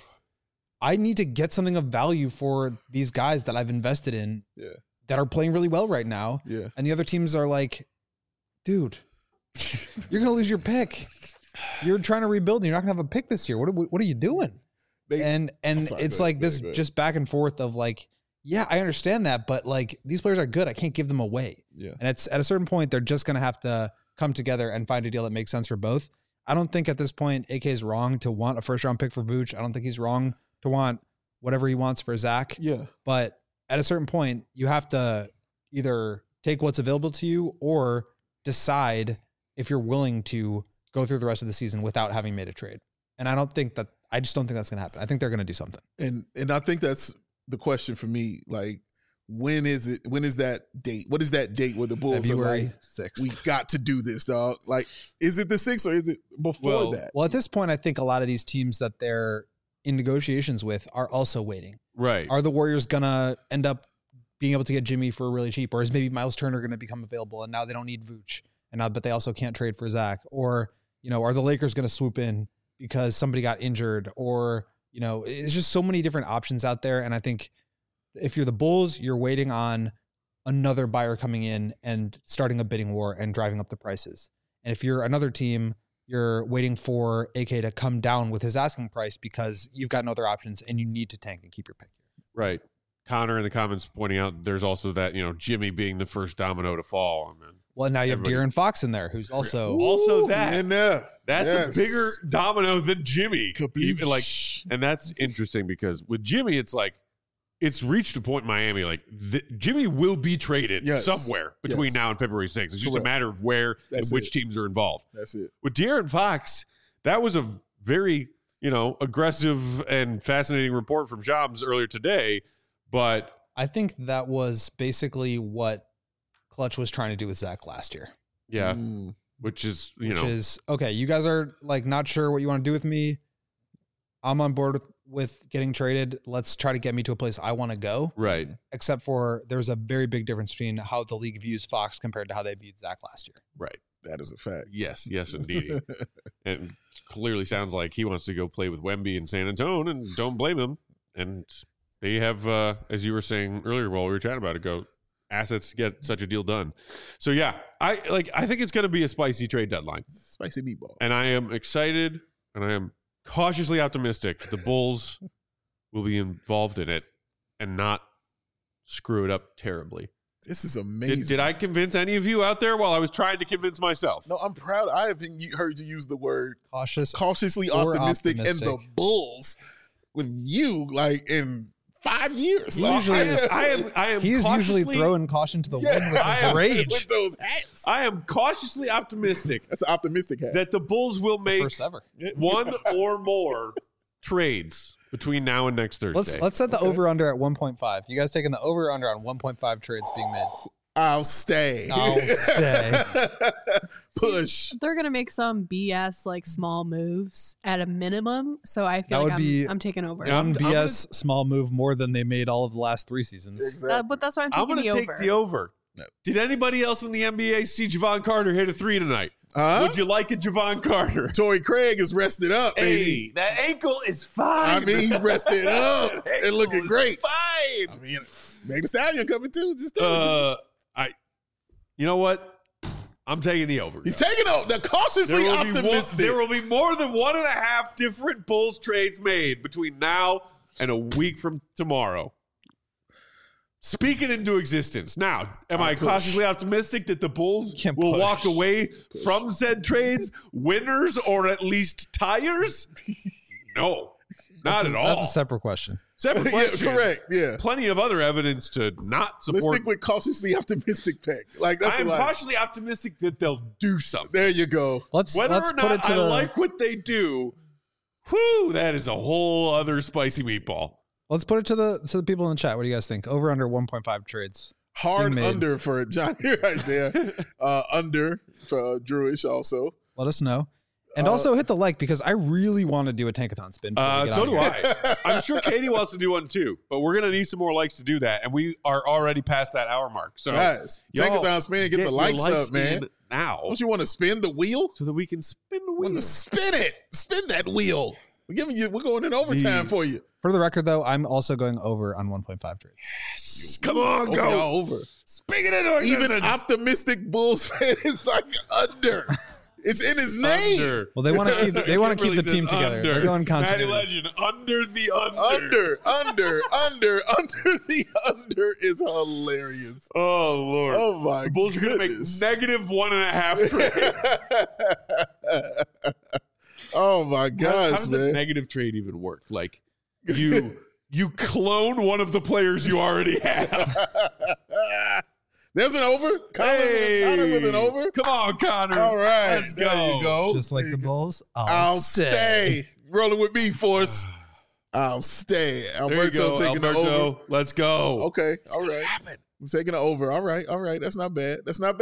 I need to get something of value for these guys that I've invested in that are playing really well right now. Yeah. And the other teams are like, dude, you're going to lose your pick. You're trying to rebuild and you're not going to have a pick this year. What are you doing? And it's like this just back and forth of like, yeah, I understand that, but like these players are good. I can't give them away. Yeah. And it's at a certain point, they're just going to have to come together and find a deal that makes sense for both. I don't think at this point AK is wrong to want a first round pick for Vooch. I don't think he's wrong to want whatever he wants for Zach. Yeah. But at a certain point, you have to either take what's available to you or decide if you're willing to go through the rest of the season without having made a trade. And I just don't think that's going to happen. I think they're going to do something. And I think that's the question for me. Like, when is that date? What is that date where the Bulls February are like, 6th. we got to do this, dog? Like, is it the 6th or is it before that? Well, at this point, I think a lot of these teams that they're in negotiations with are also waiting. Right. Are the Warriors going to end up being able to get Jimmy for really cheap? Or is maybe Miles Turner going to become available and now they don't need Vooch? But they also can't trade for Zach? Or, are the Lakers going to swoop in because somebody got injured? Or, it's just so many different options out there. And I think if you're the Bulls, you're waiting on another buyer coming in and starting a bidding war and driving up the prices. And if you're another team, you're waiting for AK to come down with his asking price because you've got no other options and you need to tank and keep your pick here. Right. Connor in the comments pointing out there's also that, Jimmy being the first domino to fall. Well, now you have De'Aaron Fox in there, who's also that. In there. That's a bigger domino than Jimmy. Capiche. And that's interesting because with Jimmy, it's like, it's reached a point in Miami, like Jimmy will be traded somewhere between now and February 6th. It's just a matter of where and which teams are involved. That's it. With De'Aaron Fox, that was a very, aggressive and fascinating report from Shams earlier today. But I think that was basically what Clutch was trying to do with Zach last year. Yeah. Which is, okay, you guys are like not sure what you want to do with me. I'm on board with getting traded. Let's try to get me to a place I want to go. Right. Except for there's a very big difference between how the league views Fox compared to how they viewed Zach last year. Right. That is a fact. Yes, indeed. And clearly sounds like he wants to go play with Wemby in San Antonio, and don't blame him. And they have, as you were saying earlier while we were chatting about it, assets to get such a deal done. So yeah, I think it's going to be a spicy trade deadline. Spicy meatball. And I am excited, and I am cautiously optimistic the Bulls will be involved in it and not screw it up terribly. This is amazing. Did I convince any of you out there while I was trying to convince myself? No, I'm proud. I haven't heard you use the word cautiously optimistic, and the Bulls with you like in 5 years. I am. He's usually throwing caution to the wind with his rage. With those hats. I am cautiously optimistic. That's an optimistic hat. That the Bulls will make first ever. one or more trades between now and next Thursday. Let's set the over-under at 1.5. You guys taking the over-under on 1.5 trades being made? I'll stay. Push. They're going to make some BS like small moves at a minimum. So I feel like I'm taking over. One BS small move more than they made all of the last 3 seasons. Exactly. But that's why I'm taking the over. I'm going to take the over. No. Did anybody else in the NBA see Javon Carter hit a 3 tonight? Would you like a Javon Carter? Torrey Craig is rested up, baby. Hey, that ankle is fine. I mean, he's rested up and looking great. Fine. I mean, Meg Thee Stallion coming too. Just you know what? I'm taking the over. He's taking over. They're cautiously optimistic. There will be more than 1.5 different Bulls trades made between now and a week from tomorrow. Speak it into existence. Now, am I cautiously optimistic that the Bulls will walk away from said trades winners or at least tiers? No, not at all. That's a separate question. Separate question. Yeah, correct. Yeah. Plenty of other evidence to not support. Let's stick with cautiously optimistic pick. Like that's I'm cautiously optimistic that they'll do something. There you go. Whether or not I like what they do, that is a whole other spicy meatball. Let's put it to the people in the chat. What do you guys think? Over under 1.5 trades. Hard under for Johnny right there. Under for Drewish also. Let us know. And also hit the like because I really want to do a Tankathon spin. So do I. I'm sure Katie wants to do one too, but we're going to need some more likes to do that. And we are already past that hour mark. So guys, Tankathon spin, get the likes up, man. Now. Don't you want to spin the wheel? So that we can spin the wheel. Spin it. Spin that wheel. We're going in overtime for you. For the record, though, I'm also going over on 1.5 trades. Yes. Come on, go. Over. Speak it into existence. Even optimistic Bulls fan is like under. It's in his name. Under. Well, they want to keep the team together. They're going continuity. Matty Legend, under the under. Under the under is hilarious. Oh, Lord. Oh, my The Bulls are going to make negative 1.5 trades. Oh, my gosh, how does man. a negative trade even work? Like, you clone one of the players you already have. There's an over. Connor with an over. Come on, Connor. All right. Let's go. There you go. Just like the Bulls, I'll stay. Rolling with me, Force. I'll stay. Alberto taking the over. Let's go. Okay. All right. I'm taking the over. All right. That's not bad.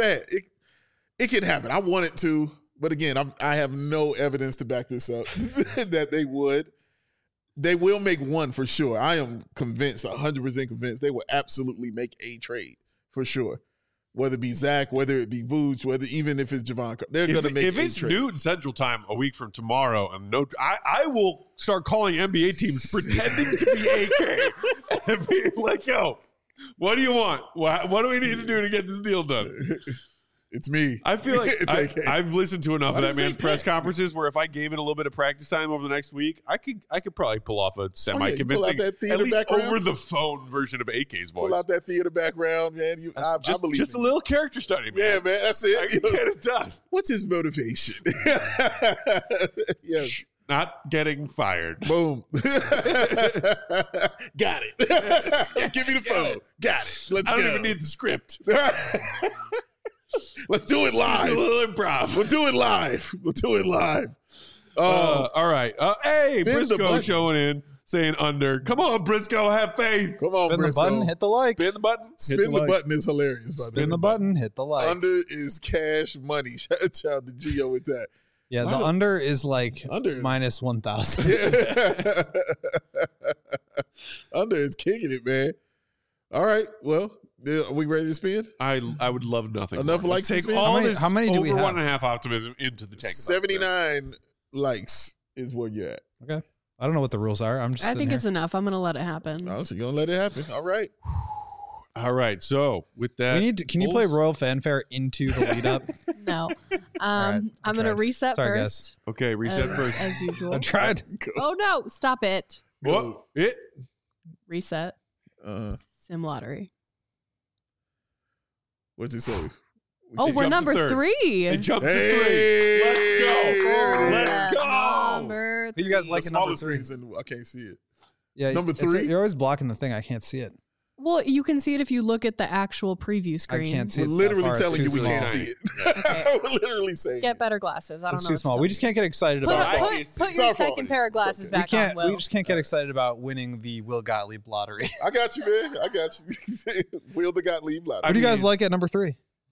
It can happen. I want it to. But again, I have no evidence to back this up that they would. They will make one for sure. I am convinced, 100% convinced, they will absolutely make a trade for sure. Whether it be Zach, whether it be Vooch, even if it's Javon, they're going to make a trade. If it's noon Central Time a week from tomorrow, and I will start calling NBA teams pretending to be AK and being like, yo, what do you want? What do we need to do to get this deal done? It's me. I feel like I've listened to enough of that man's press conferences where if I gave it a little bit of practice time over the next week, I could probably pull off a semi-convincing, at least over the phone version of AK's voice. Pull out that theater background, man. I believe just a little character study, man. Yeah, man, that's it. I can get it done. What's his motivation? Yes. not getting fired. Boom. Got it. Give me the phone. Got it. Let's I go. don't even need the script. Let's do it A live. little improv. We'll do it live. All right. Hey, Spin the Briscoe button. showing in, saying under. Come on, Briscoe, have faith. Come on, Spin the Briscoe. button, hit the like. Spin the button. Spin the button is hilarious. by the Spin way. the button, hit the like. Under is cash money. Shout out to Gio with that. Yeah, Why the do- under is like Under is- minus 1,000. Yeah. Under is kicking it, man. All right. Well, are we ready to spin? I would love nothing. Enough more. likes Let's to take spin? all How this many do we over have? 1.5 optimism into the tank. 79 likes is where you're at. Okay. I don't know what the rules are. I'm just I sitting think here. it's enough. I'm going to let it happen. Oh, so you're going to let it happen. All right. All right. So with that, We need to, can you play Bulls- Royal Fanfare into the lead up? No. right, I I'm going to tried. reset Sorry, first. Okay, reset first. As usual. I tried. Oh, no. Stop it. What? It. Reset. Sim lottery. What's it say? Oh, we're jumped number to third. 3. It jumped to Hey! 3. Let's go. There it Let's is. go. Number Who you guys The like at number smallest 3? screen's in, I can't see it. Yeah, Number it's- 3? You're always blocking the thing. I can't see it. Well, you can see it if you look at the actual preview screen. can't see We're it that literally far. It's telling too you we small. can't see it. Okay. We're literally saying Get better glasses. I don't It's know. too what to small. tell We you. just can't get excited Put, about I put, can put see. It's your our fault. second pair of It's glasses okay. we back can't. on, Will. We just can't get excited about winning the Will Gottlieb lottery. I got you, man. I got you. Will the Gottlieb lottery. What do you guys mean- like at number 3?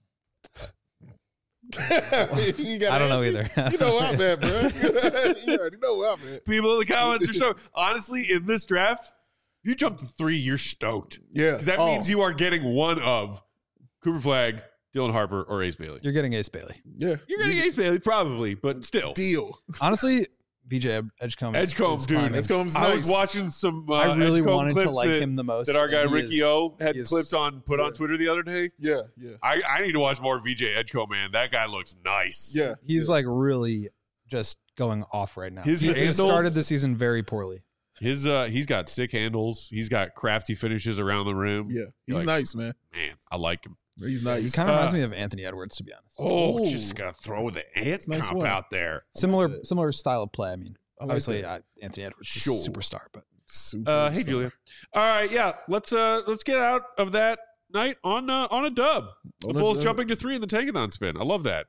I don't know either. You know where I'm at, bro. You already know where I'm at. People in the comments are stoked. Honestly, in this draft, if you jump to 3, you're stoked. Yeah. Because that means you are getting one of Cooper Flagg, Dylan Harper, or Ace Bailey. You're getting Ace Bailey. Yeah. You're getting Ace Bailey, probably, but still. Deal. Honestly, BJ Edgecombe. Edgecombe, is dude. fine. Edgecombe's I was nice. watching some I really Edgecombe wanted to clips like that, him the most. that our guy and he Ricky is- O had he is- put on Yeah. Twitter the other day. Yeah. Yeah. I need to watch more VJ Edgecombe, man. That guy looks nice. Yeah. He's yeah. like really just going off right now. His he handles- started the season very poorly. He's got sick handles. He's got crafty finishes around the rim. Yeah. He's Like, nice, man. Man, I like him. He's nice. He kind of reminds me of Anthony Edwards, to be honest. Oh, Ooh. just gotta throw the ant Nice comp one. out there. Similar style of play. I mean, I like obviously that. Anthony Edwards is Sure. a superstar, but Super Hey star. Julia. All right, yeah. Let's get out of that night on a dub. The On a Bulls dub. jumping to 3 in the Tankathon spin. I love that.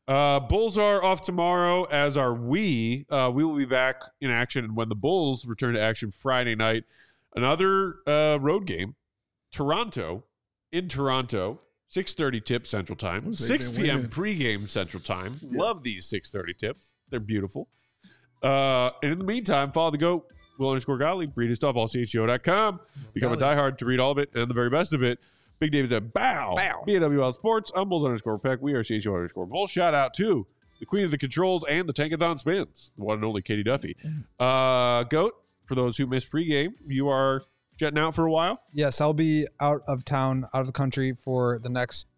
Bulls are off tomorrow, as are we. We will be back in action when the Bulls return to action Friday night. Another road game. Toronto, in Toronto, 6:30 tip Central Time, They've 6 been p.m. winning. pregame Central Time. Yeah. Love these 6:30 tips. They're beautiful. And in the meantime, follow the GOAT, Will_Gottlieb, read his stuff, allcho.com. Become a diehard to read all of it and the very best of it. Big David's at Bow. BWL Sports. I'm Bulls_Peck. We are CHO_Bulls. Shout out to the Queen of the Controls and the Tankathon Spins, the one and only Katie Duffy. GOAT, for those who missed pregame, you are jetting out for a while. yes, I'll be out of town, out of the country for the next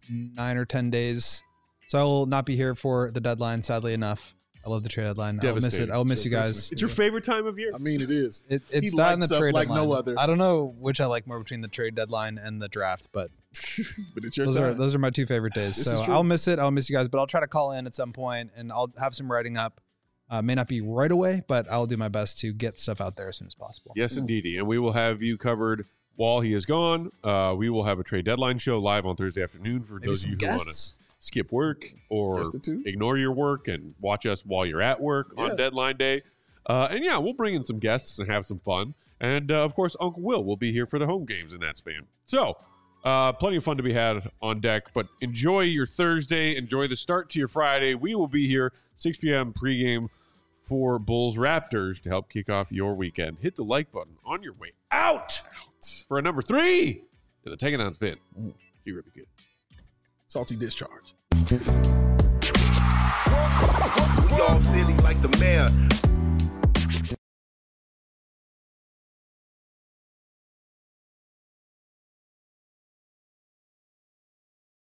9 or 10 days. So I will not be here for the deadline, sadly enough. I love the trade deadline. I'll miss it. Devastating. I'll miss you Christmas. guys. It's your favorite time of year. I mean, it is. It's He that and the lights up trade like deadline. no other. I don't know which I like more between the trade deadline and the draft, but But it's your those time. are my 2 favorite days. This is So true. I'll miss it. I'll miss you guys, but I'll try to call in at some point and I'll have some writing up. May not be right away, but I'll do my best to get stuff out there as soon as possible. Yes, indeedy. And we will have you covered while he is gone. We will have a trade deadline show live on Thursday afternoon for Maybe those of some you who want to guests. skip work or Just the two? ignore your work and watch us while you're at work Yeah. on deadline day. And yeah, we'll bring in some guests and have some fun. And of course, Uncle Will be here for the home games in that span. So plenty of fun to be had on deck. But enjoy your Thursday. Enjoy the start to your Friday. We will be here 6 p.m. pregame for Bulls Raptors to help kick off your weekend. Hit the like button on your way out for a number 3 in the Tankathon spin. Be really good. Salty discharge. Y'all silly like the mayor.